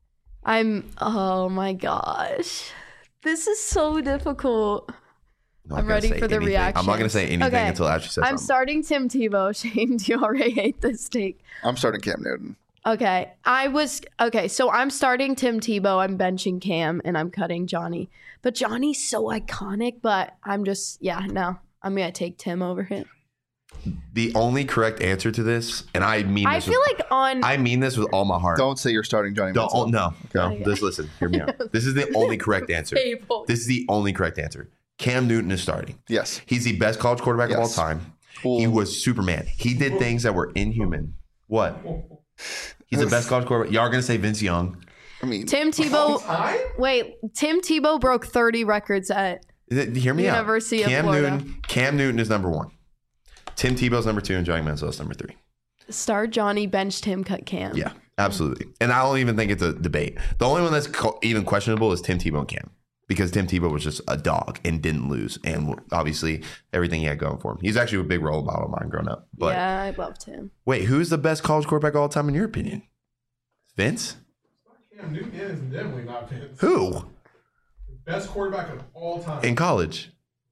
Oh my gosh. This is so difficult. not I'm gonna ready say for the anything. reaction. I'm not going to say anything Okay. until Ashley says I'm something. starting Tim Tebow. Shane, do you already hate this take? I'm starting Cam Newton. Okay. So I'm starting Tim Tebow. I'm benching Cam and I'm cutting Johnny. But Johnny's so iconic, but I'm going to take Tim over him. The only correct answer to this, and I mean I this feel with, like on. I mean this with all my heart. Don't say you're starting Johnny Don't, Manziel. no. Okay. Just listen. Hear me out. This is the only correct answer. Table. This is the only correct answer. Cam Newton is starting. Yes. He's the best college quarterback of all Yes. time. Cool. He was Superman. He did things that were inhuman. What? He's the best college quarterback. Y'all are going to say Vince Young. I mean, Tim Tebow. Wait, Tim Tebow broke 30 records at. Hear me out. University of Florida. Cam Newton is number 1. Tim Tebow's number 2 and Johnny Manziel is number 3. Start Johnny, benched him, cut Cam. Yeah, absolutely. And I don't even think it's a debate. The only one that's even questionable is Tim Tebow and Cam because Tim Tebow was just a dog and didn't lose. And obviously everything he had going for him. He's actually a big role model of mine growing up. But Yeah, I loved him. wait, who's the best college quarterback of all time in your opinion? Vince? Cam Newton is definitely not Vince. Who? Best quarterback of all time. In college?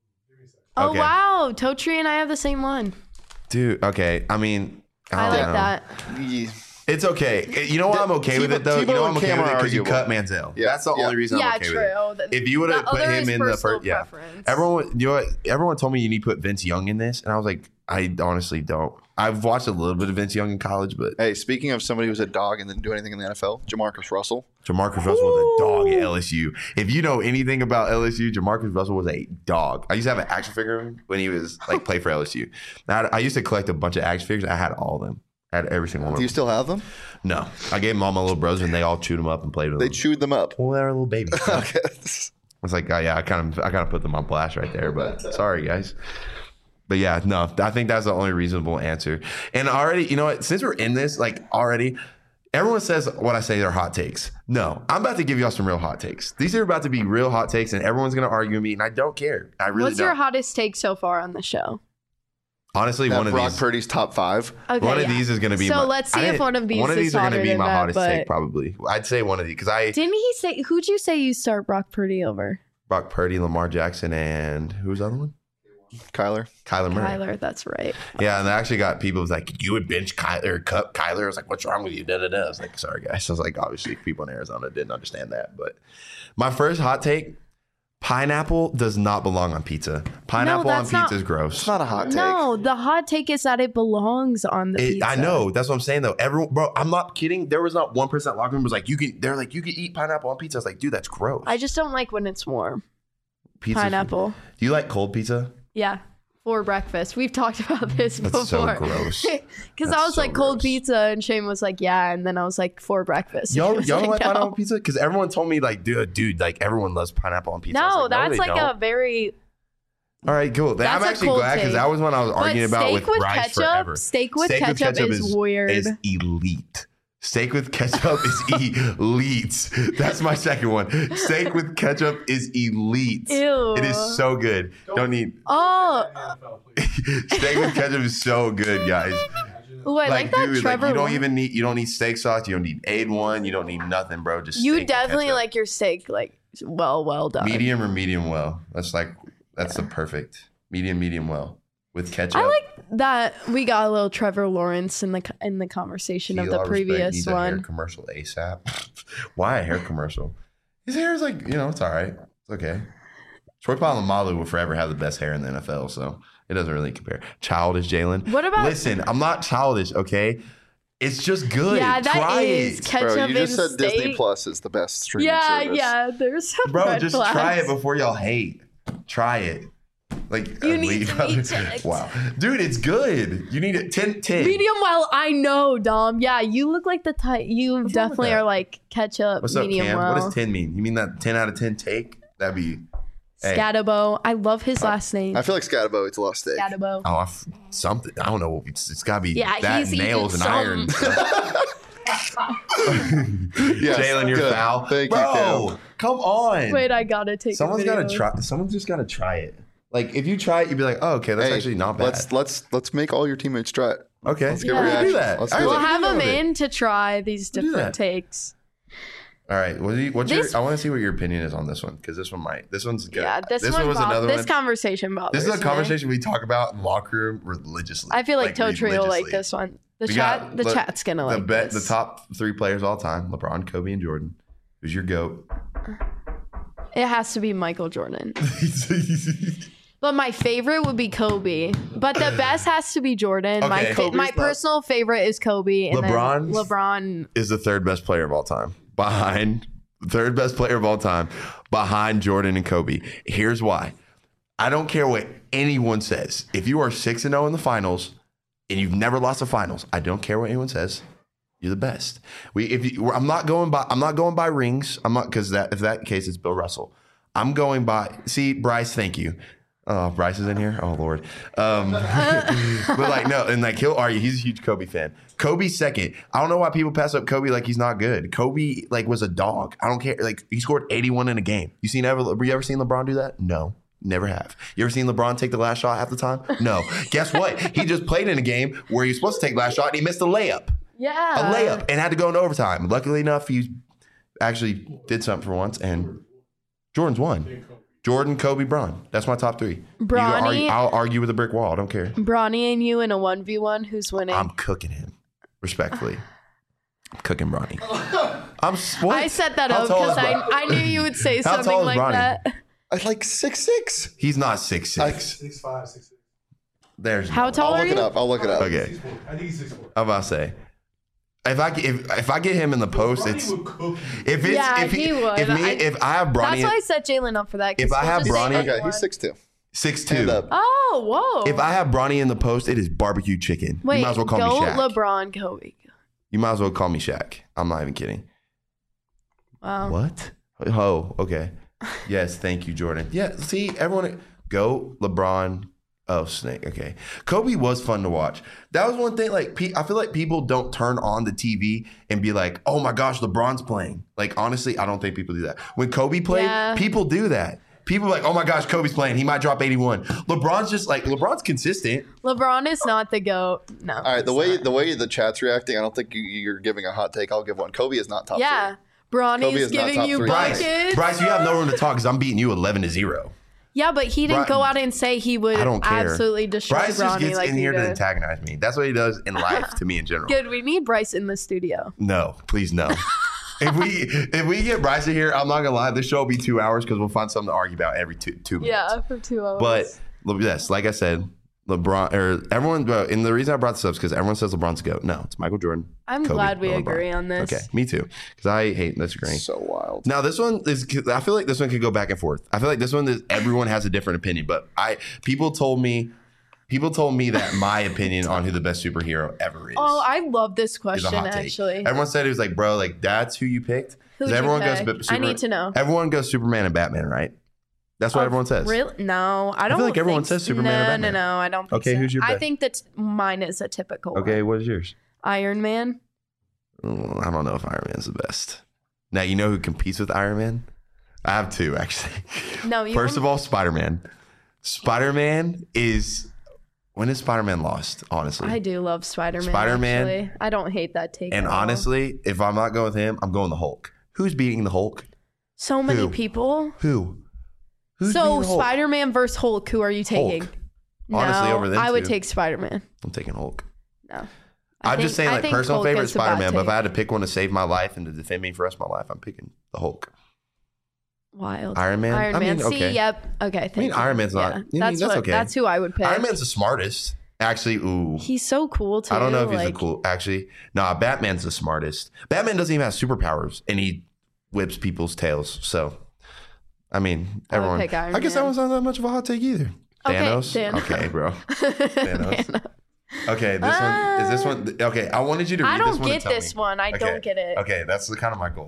Oh, Okay. wow. Totri and I have the same one. Dude, okay. I mean, I don't like know. that. yeah. It's okay. You know why I'm okay with it though? You Tebow know why I'm and okay Cam with it are because you arguable. cut Manziel. Yeah, That's the yeah. only reason Yeah, I'm okay true. with it. If you would have The put other him is in the personal first, yeah. preference. Everyone told me you need to put Vince Young in this, and I was like, I honestly don't. I've watched a little bit of Vince Young in college, but Hey, speaking of somebody who's a dog and didn't do anything in the NFL, Jamarcus Russell. Jamarcus Russell was a dog at LSU. If you know anything about LSU, Jamarcus Russell was a dog. I used to have an action figure of him when he was like play for LSU. I used to collect a bunch of action figures. I had all of them. I had every single one. Do of you them. still have them? No, I gave them all my little brothers, and they all chewed them up and played with They them. chewed them up. Well, they're little babies. Okay. It's like, oh, yeah, I kind of put them on blast right there, but sorry, guys. But yeah, no, I think that's the only reasonable answer. And already, you know what? Since we're in this, like already, everyone says what I say are hot takes. No, I'm about to give y'all some real hot takes. These are about to be real hot takes, and everyone's going to argue with me, and I don't care. I really What's don't. your hottest take so far on the show? Honestly, That one of Brock these. Purdy's top 5. Okay, One of yeah. these is going to be. So let's see if one of these is are going to hotter be than my that, hottest but- take. Probably, I'd say one of these because Didn't he say? Who'd you say you start Brock Purdy over? Brock Purdy, Lamar Jackson, and who's the other one? Kyler. Kyler Murray. Kyler. That's right. Yeah, and I actually got people was like, you would bench Kyler, cut Kyler. I was like, what's wrong with you? Da da da. I was like, sorry guys. I was like, obviously people in Arizona didn't understand that. But my first hot take: pineapple does not belong on pizza. Pineapple on that's not- pizza is gross. It's not a hot take. No, the hot take is that it belongs on the pizza. I know. That's what I'm saying though. Everyone, bro, I'm not kidding. There was not 1% locker room was like, they're like, you can eat pineapple on pizza. I was like, dude, that's gross. I just don't like when it's warm. Pizza's- Pineapple. Do you like cold pizza? Yeah. For breakfast. We've talked about this That's before. so gross. Because That's I was so like, cold gross. pizza, and Shane was like, yeah. And then I was like, for breakfast. Y'all He was don't like no. pineapple pizza? Because everyone told me like, dude, like everyone loves pineapple on pizza. I was No, like, that's they like don't. a very. All right, cool. That's I'm a actually cold glad because take. that was when I was But arguing about with steak with rice ketchup, forever. steak with ketchup is weird. Is elite. Steak with ketchup is elite. That's my second one. Steak with ketchup is elite. Ew. It is so good. Don't need Oh, NFL, please. steak with ketchup is so good, guys. ooh, I like that dude, Trevor. you don't one. even need steak sauce. You don't need A1. You don't need nothing, bro. Just steak You with definitely ketchup. like your steak like well done. medium or medium well. That's the perfect medium well with ketchup. I like that we got a little Trevor Lawrence in the conversation of Feel the our respect previous needs a hair one. commercial ASAP. Why a hair commercial? His hair is like, it's all right. It's okay. Troy Polamalu will forever have the best hair in the NFL, so it doesn't really compare. Childish Jalen. What about- Listen, I'm not childish, okay? It's just good. Yeah, that Try is it. ketchup Bro, you just and said steak. Disney Plus is the best streaming service. Yeah, there's some Bro, red just flags. try it before y'all hate. Try it. Like You need to be checked. Wow. Dude, it's good. You need it 10. Medium well, I know, Dom. Yeah, you look like the type. You wrong with definitely that? are like ketchup, What's up, medium Cam? well. What does 10 mean? You mean that 10 out of 10 take? That'd be hey. Scatabo. I love his last name. I feel like Scatabo eats a lot of steak. Scatabo. something. I don't know. It's got to be Yeah, that he's nails and eating iron. Yes, Jalen, you're good. foul. Thank you, Bro, Cam. come on. Wait, I gotta take. Someone's got to try. Someone's just got to try it. Like if you try it, you'd be like, oh, okay, that's Hey, actually not bad. Let's make all your teammates try it. Okay, let's get Yeah. We'll do reactions. that. Let's All do right, We'll it. have let's him do it. in to try these do different that. takes. All right. What's This- your? I want to see what your opinion is on this one because this one's good. Yeah, this one. was another This one. conversation bothers This is a me. conversation we talk about in the locker room religiously. I feel like Totri will like religiously. this one. The We chat. got The chat's gonna like the this. top 3 players all time: LeBron, Kobe, and Jordan. Who's your goat? It has to be Michael Jordan. But my favorite would be Kobe. But the best has to be Jordan. Okay. Kobe's My not- personal favorite is Kobe. And LeBron's- then LeBron. Is the third best player of all time, behind third best player of all time, behind Jordan and Kobe. Here's why. I don't care what anyone says. If you are 6-0 in the finals and you've never lost the finals, I don't care what anyone says. You're the best. I'm not going by rings. I'm not because if that case it's Bill Russell. I'm going by. See, Bryce, thank you. Oh, Bryce is in here. Oh Lord. But like no, and like he'll argue. He's a huge Kobe fan. Kobe's second. I don't know why people pass up Kobe like he's not good. Kobe like was a dog. I don't care. Like he scored 81 in a game. You ever seen LeBron do that? No. Never have. You ever seen LeBron take the last shot half the time? No. Guess what? He just played in a game where he was supposed to take the last shot and he missed a layup. Yeah. A layup and had to go into overtime. Luckily enough, he actually did something for once and Jordan's won. Jordan, Kobe, Bron. That's my top 3. Bronny- I'll argue with a brick wall. I don't care. Bronny and you in a 1v1. Who's winning? I'm cooking him. Respectfully. I'm cooking Bronny. What? I set that How up tall because is Bron- I knew you would say How something tall is like Bronny? that. I like 6'6". He's not 6'6". 6'5", 6'6". There's How no- tall I'll are look it you? up. I'll look it up. Okay. 6'4". I think he's 6'4". I'm about to say. If I get him in the post, Bronny it's would cook you. if it's Yeah, if he would. if I have That's Bronny why I set Jalen up for that. 'cause If I he'll have just say Bronny- Okay, anyone. he's 6'2". 6'2". Hand up. Oh, whoa. If I have Bronny in the post, it is barbecue chicken. Wait, you might as well call go me Shaq. LeBron, Kobe. You might as well call me Shaq. I'm not even kidding. Wow. What? Oh, okay. Yes, thank you, Jordan. Yeah, see, everyone go LeBron. Oh, Snake. Okay. Kobe was fun to watch. That was one thing. Like, I feel like people don't turn on the TV and be like, oh my gosh, LeBron's playing. Like, honestly, I don't think people do that. When Kobe played, Yeah. people do that. People are like, oh my gosh, Kobe's playing. He might drop 81. LeBron's just like, LeBron's consistent. LeBron is not the GOAT. No. All right, the way the chat's reacting, I don't think you're giving a hot take. I'll give one. Kobe is not top Yeah. three. Bronny's Kobe is not giving top you three. buckets. Bryce, you have no room to talk because I'm beating you 11-0. Yeah, but he didn't go out and say he would I don't care. absolutely destroy Bryce just Bronny gets like in he here to did. antagonize me. That's what he does in life to me in general. Good, we need Bryce in the studio. No, please no. if we get Bryce in here, I'm not gonna lie, this show will be 2 hours because we'll find something to argue about every two minutes. Yeah, for 2 hours. But yes, like I said, LeBron or everyone. And the reason I brought this up is because everyone says LeBron's the GOAT. No, it's Michael Jordan. I'm Kobe, glad we not agree LeBron. on this. Okay, me too. Because I hate disagreeing. So wild. Now this one is. I feel like this one could go back and forth. I feel like this one is. Everyone has a different opinion, but people told me that my opinion on who the best superhero ever is. Oh, I love this is a question, hot take. actually. Everyone said it was like, bro, like that's who you picked. Who'd 'Cause you everyone pick? goes. I need to know. Everyone goes Superman and Batman, right? That's what everyone says. Really? No, I don't. feel like everyone think says Superman or Batman. No, I don't think Okay, so. who's your I best? think that mine is a typical Okay, one. what is yours? Iron Man. Oh, I don't know if Iron Man's the best. Now you know who competes with Iron Man? I have two actually. No, you First of all, Spider-Man. Spider-Man is when is Spider-Man lost? Honestly, I do love Spider-Man. Spider-Man- actually. I don't hate that take. and at all. honestly, if I'm not going with him, I'm going the Hulk. Who's beating the Hulk? so many who? people. Who? Who's So beating the Hulk? Spider-Man versus Hulk. Who are you taking? Hulk. Honestly, No, over them I would two. take Spider-Man. I'm taking Hulk. No. I'm just saying, I like, think personal Hulk favorite is a bad Spider-Man, but if take. I had to pick one to save my life and to defend me for the rest of my life, I'm picking the Hulk. Wild. Iron Man? Iron I Man. mean, See, okay. yep. Okay. Thank you. Iron Man's not- I mean, That's that's what. okay. That's who I would pick. Iron Man's the smartest. Actually, ooh. He's so cool too. I don't know if he's like, the cool. Actually, nah, Batman's the smartest. Batman doesn't even have superpowers, and he whips people's tails. So, I mean, I would everyone. pick Iron I guess Man. that one's not that much of a hot take either. Okay, Thanos. Thanos. Okay, bro. Thanos. Okay, this one is this one. Okay, I wanted you to read I this don't one. get and tell this me. one. I Okay, don't get it. Okay, that's the kind of my goal.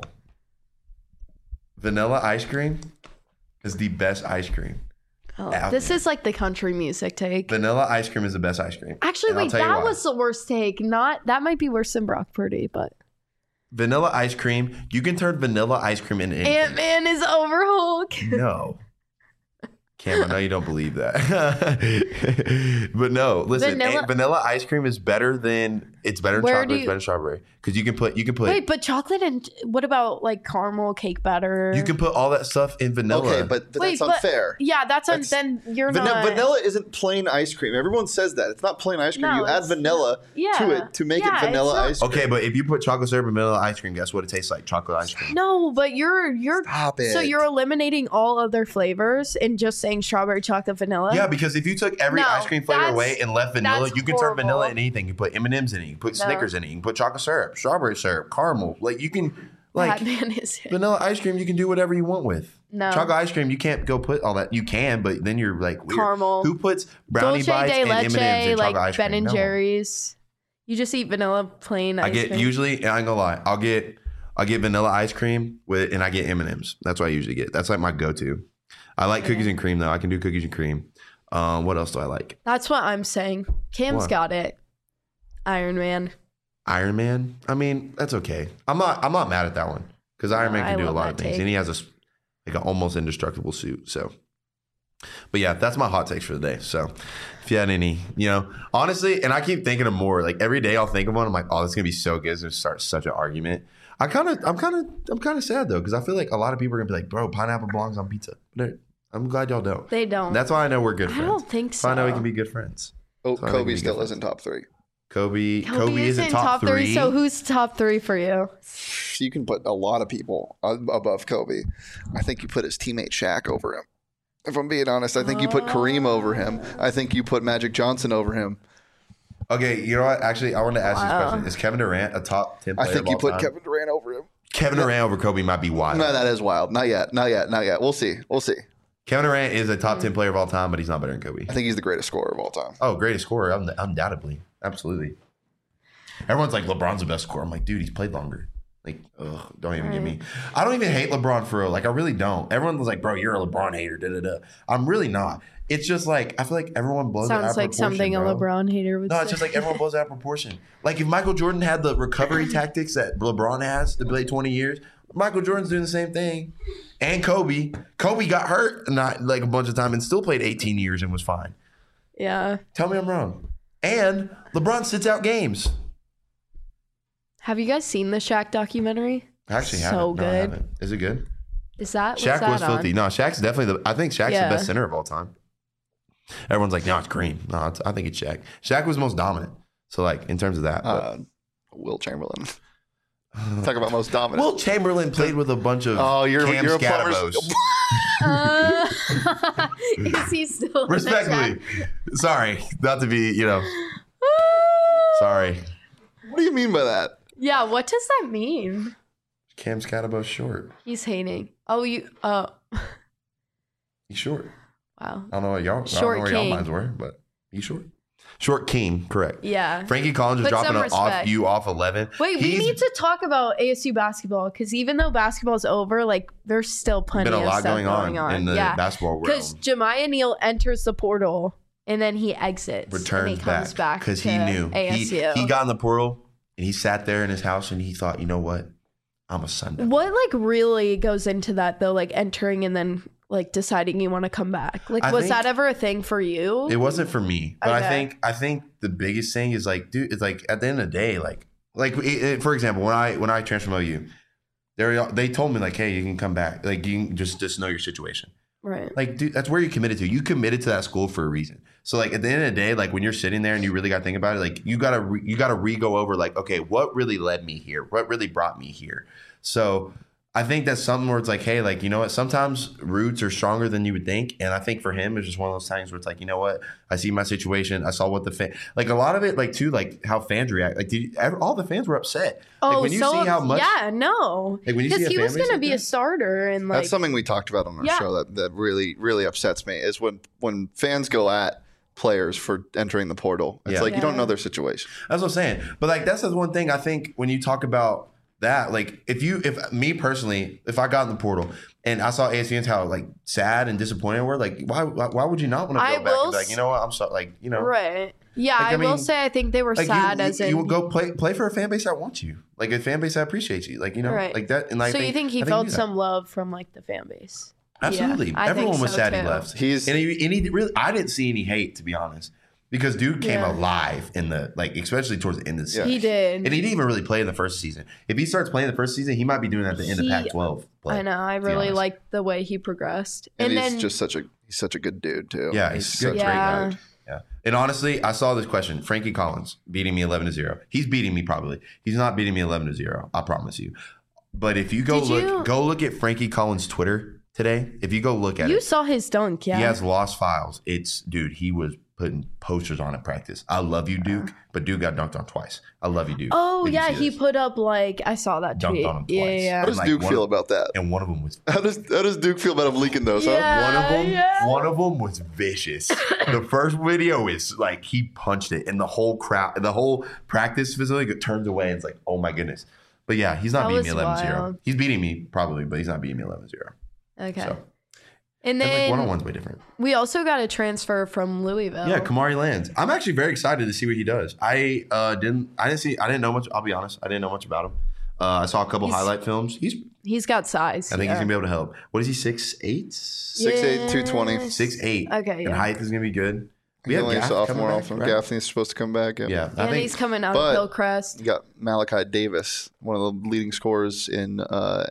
Vanilla ice cream is the best ice cream. Oh, out this there. is like the country music take. Vanilla ice cream is the best ice cream. Actually, And I'll wait, tell you that why. was the worst take. Not that might be worse than Brock Purdy, but Vanilla ice cream. You can turn vanilla ice cream into anything. Ant Man is over Hulk. No. Cam, I know you don't believe that. But no, listen, vanilla ice cream is better than chocolate, it's better than strawberry. Because you can put Wait, but chocolate and what about like caramel cake batter? you can put all that stuff in vanilla. Okay, but Wait, that's unfair. Yeah, That's- then you're not. Vanilla isn't plain ice cream. Everyone says that. It's not plain ice cream. No, you add it's vanilla Yeah. to it to make Yeah, it vanilla it's not- ice cream. Okay, but if you put chocolate syrup and vanilla ice cream, guess what it tastes like? Chocolate ice cream. No, but you're Stop it. so you're eliminating all other flavors and just saying strawberry, chocolate, vanilla. Yeah, because if you took every No, ice cream flavor that's- away and left vanilla, that's you can turn vanilla horrible. in anything. You put M&Ms in it. You can put No. Snickers in it. You can put chocolate syrup, strawberry syrup, caramel. Like you can, like Batman is it. vanilla ice cream, you can do whatever you want with. No. Chocolate ice cream, you can't go put all that. You can, but then you're like weird. Caramel. Who puts brownie Dulce bites de and M&Ms in leche, chocolate like ice cream? Ben and No. Jerry's. You just eat vanilla plain ice I get cream. usually. I ain't gonna lie. I'll get vanilla ice cream with, and I get M&Ms. That's what I usually get. That's like my go-to. I like cookies and cream though. I can do cookies and cream. What else do I like? That's what I'm saying. Cam's What? got it. Iron Man. Iron Man. I mean, that's okay. I'm not mad at that one because Iron Man I can do a love lot that of things, take. and he has like an almost indestructible suit. So, but yeah, that's my hot takes for the day. So, if you had any, honestly, and I keep thinking of more. Like every day, I'll think of one. I'm like, oh, this is gonna be so good. It's gonna start such an argument. I'm kind of sad though because I feel like a lot of people are gonna be like, bro, pineapple belongs on pizza. But I'm glad y'all don't. They don't. That's why I know we're good I friends. don't think That's why I know we so. can be good friends. Oh, So I think we Kobe can still get isn't top three. Kobe Kobe isn't top three. So who's top three for you? You can put a lot of people above Kobe. I think you put his teammate Shaq over him. If I'm being honest, I think you put Kareem over him. I think you put Magic Johnson over him. Okay, you know what? Actually, I wanted to ask you Wow. this question. Is Kevin Durant a top 10 player I think of you all put time? Kevin Durant over him. Kevin Durant over Kobe might be wild. No, that is wild. Not yet. We'll see. Kevin Durant is a top 10 player of all time, but he's not better than Kobe. I think he's the greatest scorer of all time. Oh, greatest scorer, undoubtedly. Absolutely. Everyone's like, LeBron's the best scorer. I'm like, dude, he's played longer. Like, ugh, don't even get me. I don't even hate LeBron for real. Like, I really don't. Everyone was like, bro, you're a LeBron hater. Da, da, da. I'm really not. It's just like, I feel like everyone blows it out of Sounds like proportion, something bro. a LeBron hater would No, say. it's just like everyone blows it out of proportion. Like if Michael Jordan had the recovery tactics that LeBron has to play 20 years, Michael Jordan's doing the same thing. And Kobe. Kobe got hurt not like a bunch of times and still played 18 years and was fine. Yeah. Tell me I'm wrong. And LeBron sits out games. Have you guys seen the Shaq documentary? I actually So haven't. No, I good. haven't. Is it good? Is that Shaq what's was that on? filthy. No, Shaq's definitely I think Shaq's Yeah. the best center of all time. Everyone's like, no, it's Green. No, I think it's Shaq. Shaq was most dominant. So like in terms of that. But, Will Chamberlain. Talk about most dominant. Will Chamberlain played with a bunch of you're Cam a Scatabos. Is he still in the Respectfully. chat? Sorry. Not to be, sorry. What do you mean by that? Yeah, what does that mean? Cam Scatabos short. He's hating. He's He's short. wow. I don't know what y'all, Short y'all king. minds were, but he's short. Short king, correct. Yeah. Frankie Collins is Put some dropping respect. off 11. Wait, we need to talk about ASU basketball because even though basketball's over, like there's still plenty been a of lot stuff going on in the basketball world. Because Jemiah Neal enters the portal and then he exits. Returns and he comes back because to he knew ASU. he got in the portal and he sat there in his house and he thought, you know what, I'm a Sun Devil. What like really goes into that though? Like entering and then like deciding you want to come back. Like I was think- that ever a thing for you? It wasn't for me, but Okay. I think the biggest thing is like, dude, it's like at the end of the day, like for example, when I transferred from OU, they told me like, hey, you can come back, like you can just know your situation. Right. Like, dude, that's where you committed to. You committed to that school for a reason. So, like, at the end of the day, like when you're sitting there and you really got to think about it, like you gotta re-go over, like, okay, what really led me here? What really brought me here? So, I think that's something where it's like, hey, like, you know what? Sometimes roots are stronger than you would think, and I think for him, it's just one of those times where it's like, you know what? I see my situation. I saw what like a lot of it, like too, like how fans react. Like, all the fans were upset. Like, when you see how much, yeah, no. like when you see Because a he fan was base going to like be that- a starter and like That's something we talked about on our Yeah. show that really, really upsets me is when fans go at players for entering the portal. It's Yeah. like you don't Yeah. know their situation. That's what I'm saying. But like that's the one thing I think when you talk about that, like if me personally, if I got in the portal and I saw ASUNs how like sad and disappointed we're like, why would you not want to I go back and will be like, you know what, I'm sorry, like, you know, right. Yeah, Like, I I will mean, say I think they were like sad you, as you in will go play for a fan base that wants you, like a fan base that appreciates you, like, you know, Right. like that. And like, so you think he I felt do that. some love from like the fan base? Absolutely. Yeah, I think Everyone was so, sad he too. left. He's And he really, I didn't see any hate, to be honest, because dude came Yeah. alive in the, like, especially towards the end of the season. He did. And he didn't even really play in the first season. If he starts playing the first season, he might be doing that at the end of He- Pac-12 play. I know. I to be really honest. liked the way he progressed. and And he's then just he's such a good dude too. Yeah, he's such good. a Great Yeah. guy. Yeah. And honestly, I saw this question. Frankie Collins beating me 11-0. He's beating me probably. He's not beating me 11-0. I promise you. But if you go look at Frankie Collins' Twitter today. If you go look at you it, saw his dunk, yeah. he has lost files. Dude, he was putting posters on at practice. I love you, Duke, but Duke got dunked on twice. I love you, Duke. Oh Did you yeah, see he this? put up like I saw that Dunked tweet. on him Yeah, twice. yeah. How does Like, Duke one feel of- about that? And one of them was How does Duke feel about him leaking those? Yeah. one of them was vicious. The first video is like he punched it, and the whole crowd, the whole practice facility turns away. And it's like, oh my goodness. But yeah, he's not That beating me was 11-0. wild. He's beating me probably, but he's not beating me 11-0. Okay. So And and like then one-on-one's way different. we also got a transfer from Louisville. Yeah, Kamari Lands. I'm actually very excited to see what he does. I didn't know much. I'll be honest. I didn't know much about him. I saw a couple highlight films. He's got size. I think yeah. he's gonna be able to help. What is he? 6'8"? 6'8", 220. 6'8". Okay, And yeah. height is gonna be good. We He's have only a Gaff sophomore. coming back, right? Gaffney's supposed to come back. Yeah, I And think he's coming out but- of Hillcrest. You got Malachi Davis, one of the leading scorers in the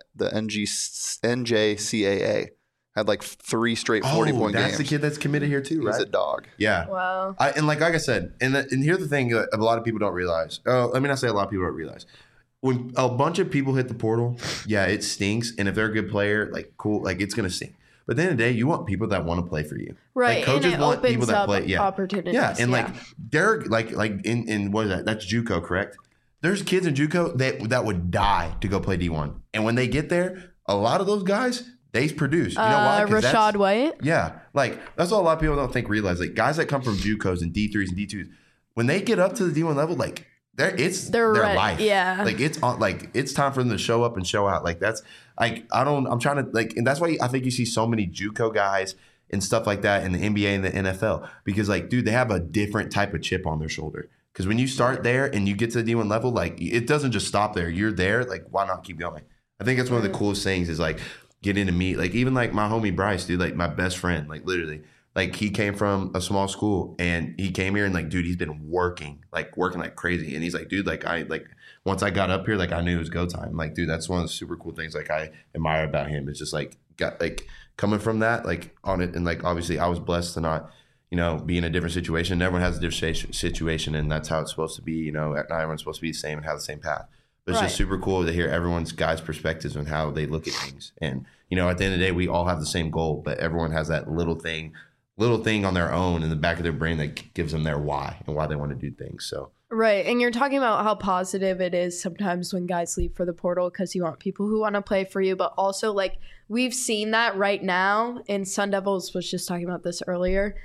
NJCAA. Had like 3 straight 40-point that's games. the kid that's committed here too, He's right? a dog. Yeah. Wow. And like I said, and here's the thing that a lot of people don't realize. Let me not say a lot of people don't realize. When a bunch of people hit the portal, yeah, it stinks. And if they're a good player, like cool, like it's gonna stink. But at the end of the day, you want people that want to play for you. Right. Like coaches and it want people opens that up play. Yeah. opportunities. Yeah. And like they're like in what is that? That's JUCO, correct? There's kids in JUCO that would die to go play D1. And when they get there, a lot of those guys, they produce. You know why? 'Cause that's- Rashad White. yeah, like that's what a lot of people don't realize. Like guys that come from JUCOs and D3s and D2s, when they get up to the D1 level, like they're their ready, life. yeah. like it's on. Like it's time for them to show up and show out. Like that's like I'm trying to like, and that's why I think you see so many JUCO guys and stuff like that in the NBA and the NFL because like, dude, they have a different type of chip on their shoulder. Because when you start there and you get to the D1 level, like it doesn't just stop there. You're there. Like why not keep going? I think that's one of the coolest things is like getting to meet, like even like my homie Bryce, dude, like my best friend, like literally, like he came from a small school and he came here and like, dude, he's been working like crazy. And he's like, dude, like once I got up here, like I knew it was go time. Like, dude, that's one of the super cool things like I admire about him. It's just like got like coming from that, like on it. And like, obviously I was blessed to not, be in a different situation. Everyone has a different situation and that's how it's supposed to be. Not everyone's supposed to be the same and have the same path. But it's just super cool to hear everyone's guys' perspectives on how they look at things. And, at the end of the day, we all have the same goal, but everyone has that little thing on their own in the back of their brain that gives them their why and why they want to do things. So Right. And you're talking about how positive it is sometimes when guys leave for the portal because you want people who want to play for you. But also, like, we've seen that right now. And Sun Devils was just talking about this earlier.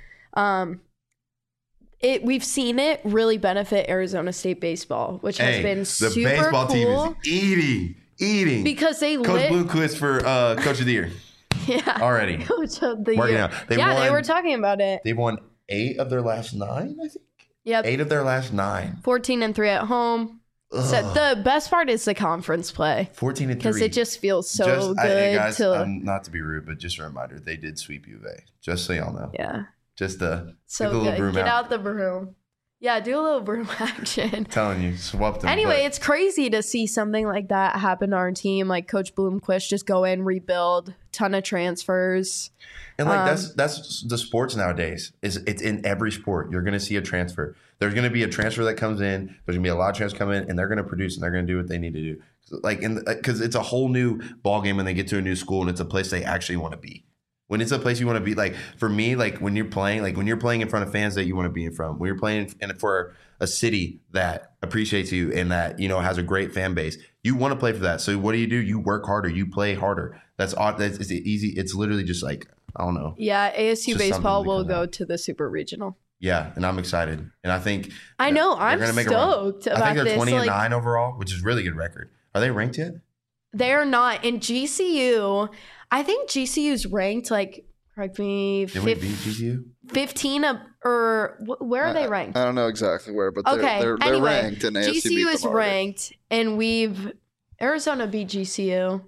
We've seen it really benefit Arizona State baseball, which has been super cool. The baseball team is eating. Because they Coach Bloomquist for Coach of the Year. Yeah. Already. Coach of the Working Year. out. They were talking about it. They've won 8 of their last 9, I think. Yep. 8 of their last 9. 14-3 at home. So the best part is the conference play. 14-3. Because it just feels so good. Hey guys, not to be rude, but just a reminder, they did sweep U of A. Just so y'all know. Yeah. Just so get the little good. broom Get out the broom. Yeah, do a little broom action. I'm telling you, swap them. Anyway, it's crazy to see something like that happen to our team. Like Coach Bloomquist just go in, rebuild, ton of transfers. And like that's the sports nowadays. It's in every sport. You're gonna see a transfer. There's gonna be a transfer that comes in. There's gonna be a lot of transfers come in, and they're gonna produce and they're gonna do what they need to do. Like because it's a whole new ball game when they get to a new school and it's a place they actually want to be. When it's a place you want to be, like for me, like when you're playing in front of fans that you want to be in front, when you're playing for a city that appreciates you and that has a great fan base, you want to play for that. So what do? You work harder, you play harder. That's it's easy. It's literally just like I don't know. Yeah, ASU baseball will go out to the Super Regional. Yeah, and I'm excited, and I think I'm stoked about this. I think they're 20-9 overall, which is a really good record. Are they ranked yet? They're not. In GCU, I think GCU's ranked like, correct me, Did we beat GCU? 15 or where are they ranked? I don't know exactly where, but they're anyway, ranked. And ASU GCU is ranked, and Arizona beat GCU.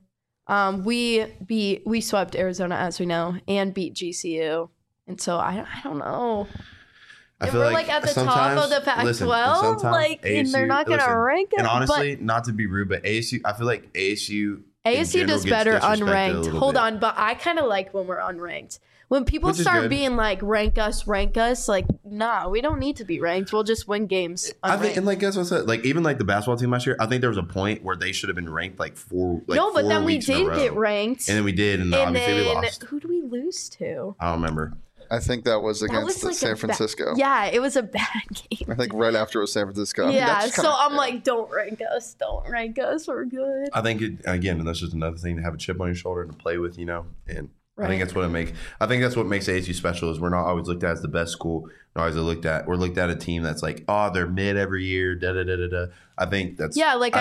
We swept Arizona, as we know, and beat GCU, and so I don't know. I if feel we're like at the top of the Pac-12, like ASU, and they're not going to rank it. And honestly, not to be rude, but ASU, I feel like ASU does better unranked. Hold on, but I kind of like when we're unranked. When people start being like, rank us, like, nah, we don't need to be ranked. We'll just win games. I think, and like that's what I said. Like even like the basketball team last year, I think there was a point where they should have been ranked like 4. Like no, but 4 then we weeks in a did row. get ranked, and then we did, and obviously we lost. Who do we lose to? I don't remember. I think that was against like San Francisco. Yeah, it was a bad game. I think right after it was San Francisco. Yeah, so I'm like, don't rank us. We're good. I think again, that's just another thing to have a chip on your shoulder and to play with, and I think that's what makes ASU special is we're not always looked at as the best school. We're looked at a team that's like, oh, they're mid every year. I think that's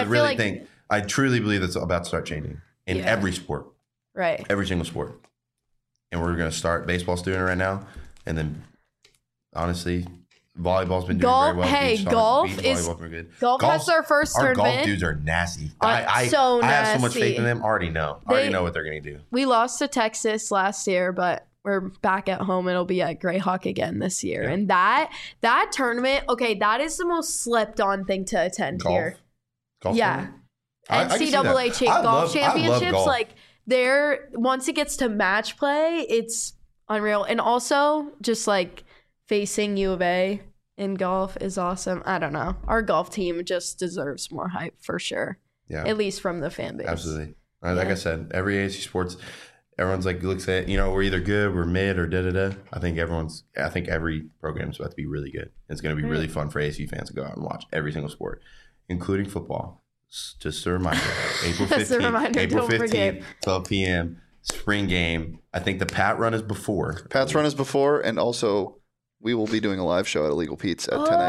I truly believe that's about to start changing in every sport, right? Every single sport. And we're going to start baseball's doing it right now. And then, honestly, volleyball's been doing very well. Hey, golf has their first tournament. Our golf dudes are nasty. I have so much faith in them. I already know what they're going to do. We lost to Texas last year, but we're back at home. It'll be at Greyhawk again this year. Yeah. And that tournament, okay, that is the most slept on thing to attend here. Golf tournament? NCAA golf championships, like, once it gets to match play, it's unreal. And also just like facing U of A in golf is awesome. I don't know. Our golf team just deserves more hype for sure. Yeah. At least from the fan base. Absolutely. Like I said, every ASU sports, everyone's like looks at, we're either good, we're mid or da-da-da. I think every program's about to be really good. It's going to be really fun for ASU fans to go out and watch every single sport, including football. Just a reminder, April 15th, 12 p.m., spring game. I think the Pat run is before. Pat's run is before, and also we will be doing a live show at Illegal Pete's at 10 a.m.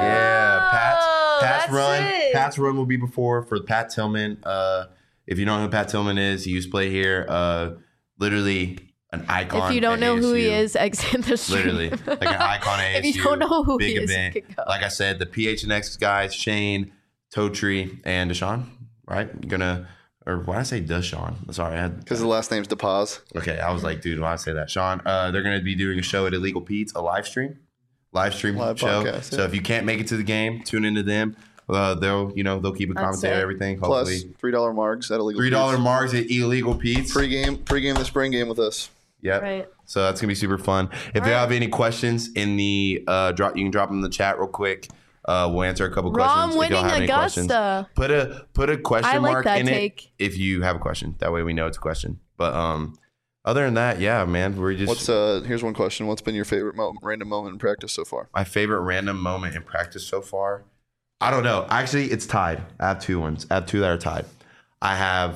Yeah, Pat's run will be before for Pat Tillman. If you don't know who Pat Tillman is, he used to play here. Literally an icon. If you don't know who he is, exit the stream. Literally, like an icon at ASU. If you don't know who big he event. is, like I said, the PHNX guys, Shane, Totri, and Deshaun, right? Gonna or why did I say Deshaun? Sorry, Because the last name's DePaz. Okay, I was like, dude, why did I say that? Sean, they're going to be doing a show at Illegal Pete's, a live stream Live show. podcast, So yeah. if you can't make it to the game, tune into them. They'll keep a commentary, it. everything. Plus Hopefully, $3 marks at Illegal $3 Pete's. marks at Illegal Pete's. Pregame the spring game with us. Yep. Right. So that's gonna be super fun. If you have any questions in the drop, you can drop them in the chat real quick. We'll answer a couple questions. Rom If y'all winning have any questions, Augusta. put a question I like mark that in take. it if you have a question. That way we know it's a question. But other than that, yeah, man, we're just. Here's one question. What's been your favorite random moment in practice so far? My favorite random moment in practice so far? I don't know. Actually, it's tied. I have two that are tied. I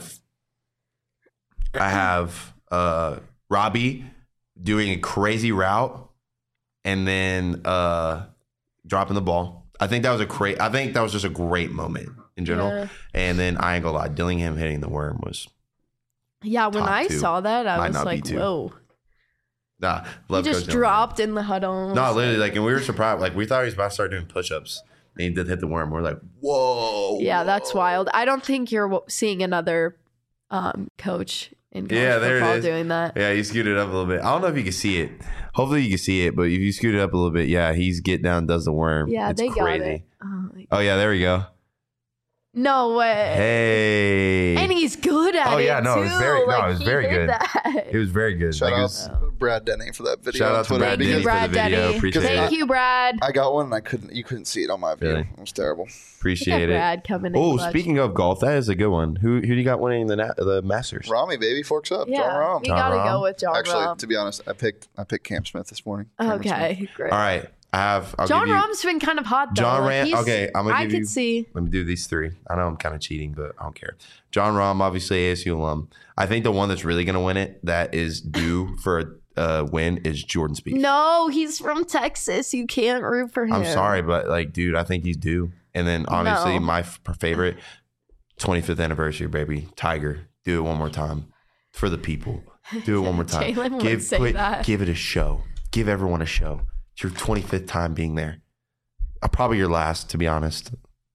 have Robbie doing a crazy route and then dropping the ball. I think that was just a great moment in general. Yeah. And then I ain't gonna lie, Dillingham hitting the worm was Yeah, when Top I two. saw that, I Might was not be like, two. whoa. nah. He Love just Coach Dillingham. dropped in the huddle. No, literally, like, and we were surprised. Like, we thought he was about to start doing push-ups, and he did hit the worm. We're like, whoa. Yeah, that's wild. I don't think you're seeing another coach in college Yeah, there it football is. doing that. Yeah, he scooted up a little bit. I don't know if you can see it. Hopefully you can see it, but if you scoot it up a little bit, yeah, he's get down, does the worm. Yeah, it's they crazy. got it. Oh, my- Oh yeah, there we go. no way. Hey. And he's good at it. Oh, yeah, no, it was too. very- no, Like, it was he very did good. that. It was very good. Shout Like, it out was- Brad Denny for that video. Shout on out to Twitter Brad Thank you, Denny for Brad the video. Denny. Appreciate Thank it. you, Brad. I got one and you couldn't see it on my view. Really? It was terrible. Look at Appreciate it. Brad coming in. Oh, clutch. speaking of golf, that is a good one. Who do you got winning the Masters? Rami, baby, forks up. John Yeah, Rahm. you John gotta Rahm. go with John Actually, Rahm. to be honest, I picked Cam Smith this morning. Cameron Smith. Okay, great. All right, I'll John give you, Rahm's been kind of hot though. John Like, Rahm. he's- Okay, I'm gonna I give could you. see. Let me do these three. I know I'm kind of cheating, but I don't care. John Rahm, obviously ASU alum. I think the one that's really going to win it, that is due for a win, is Jordan Spieth. No, he's from Texas. You can't root for him. I'm sorry, but like, dude, I think he's due. And then obviously No. my favorite, 25th anniversary, baby, Tiger. Do it one more time for the people. Do it one more time. Jalen would say that. Give it a show. Give everyone a show. It's your 25th time being there. Probably your last, to be honest.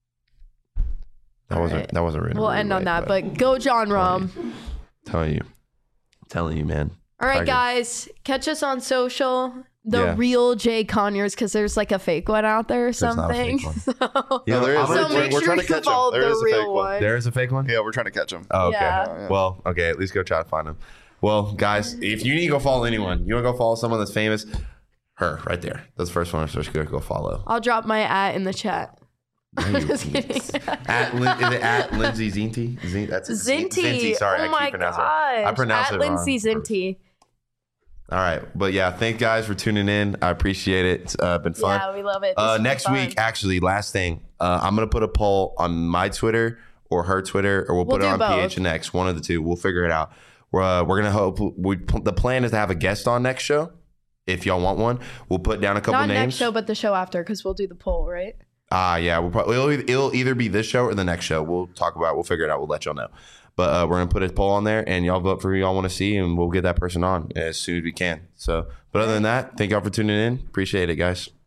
That All wasn't right. that wasn't written. We'll a rude end on way, that, but go John Rahm. telling you, man. All right, Tiger. guys, catch us on social. The Yeah. real Jay Conyers, because there's like a fake one out there or not a something. fake one. So, Yeah, there is. so We're- make we're sure trying to you catch 'em. follow There is the a fake real one. one. There is a fake one? Yeah, we're trying to catch him. Oh, okay. Yeah. Well, okay. At least go try to find him. Well, guys, if you need to go follow anyone, you want to go follow someone that's famous, her right there. That's the first one. So just go follow. I'll drop my @ in the chat. No, you Just can't. kidding. Is it at Lindsay Zinti? That's it. Zinti. Sorry, oh I my keep pronouncing gosh. it. I pronounce At it Lindsay wrong. Zinti. All right, but yeah, thank guys for tuning in. I appreciate it. It's been fun. Yeah, we love it. This has been Next fun. week, actually, last thing, I'm gonna put a poll on my Twitter or her Twitter, or we'll put it We'll on do both. PHNX. One of the two. We'll figure it out. We're gonna hope. The plan is to have a guest on next show. If y'all want one, we'll put down a couple Not names. next show, but the show after, because we'll do the poll, right? Yeah, it'll either be this show or the next show. We'll talk about it. We'll figure it out. We'll let y'all know. But we're gonna put a poll on there, and y'all vote for who y'all want to see, and we'll get that person on as soon as we can. So, but other than that, thank y'all for tuning in. Appreciate it, guys.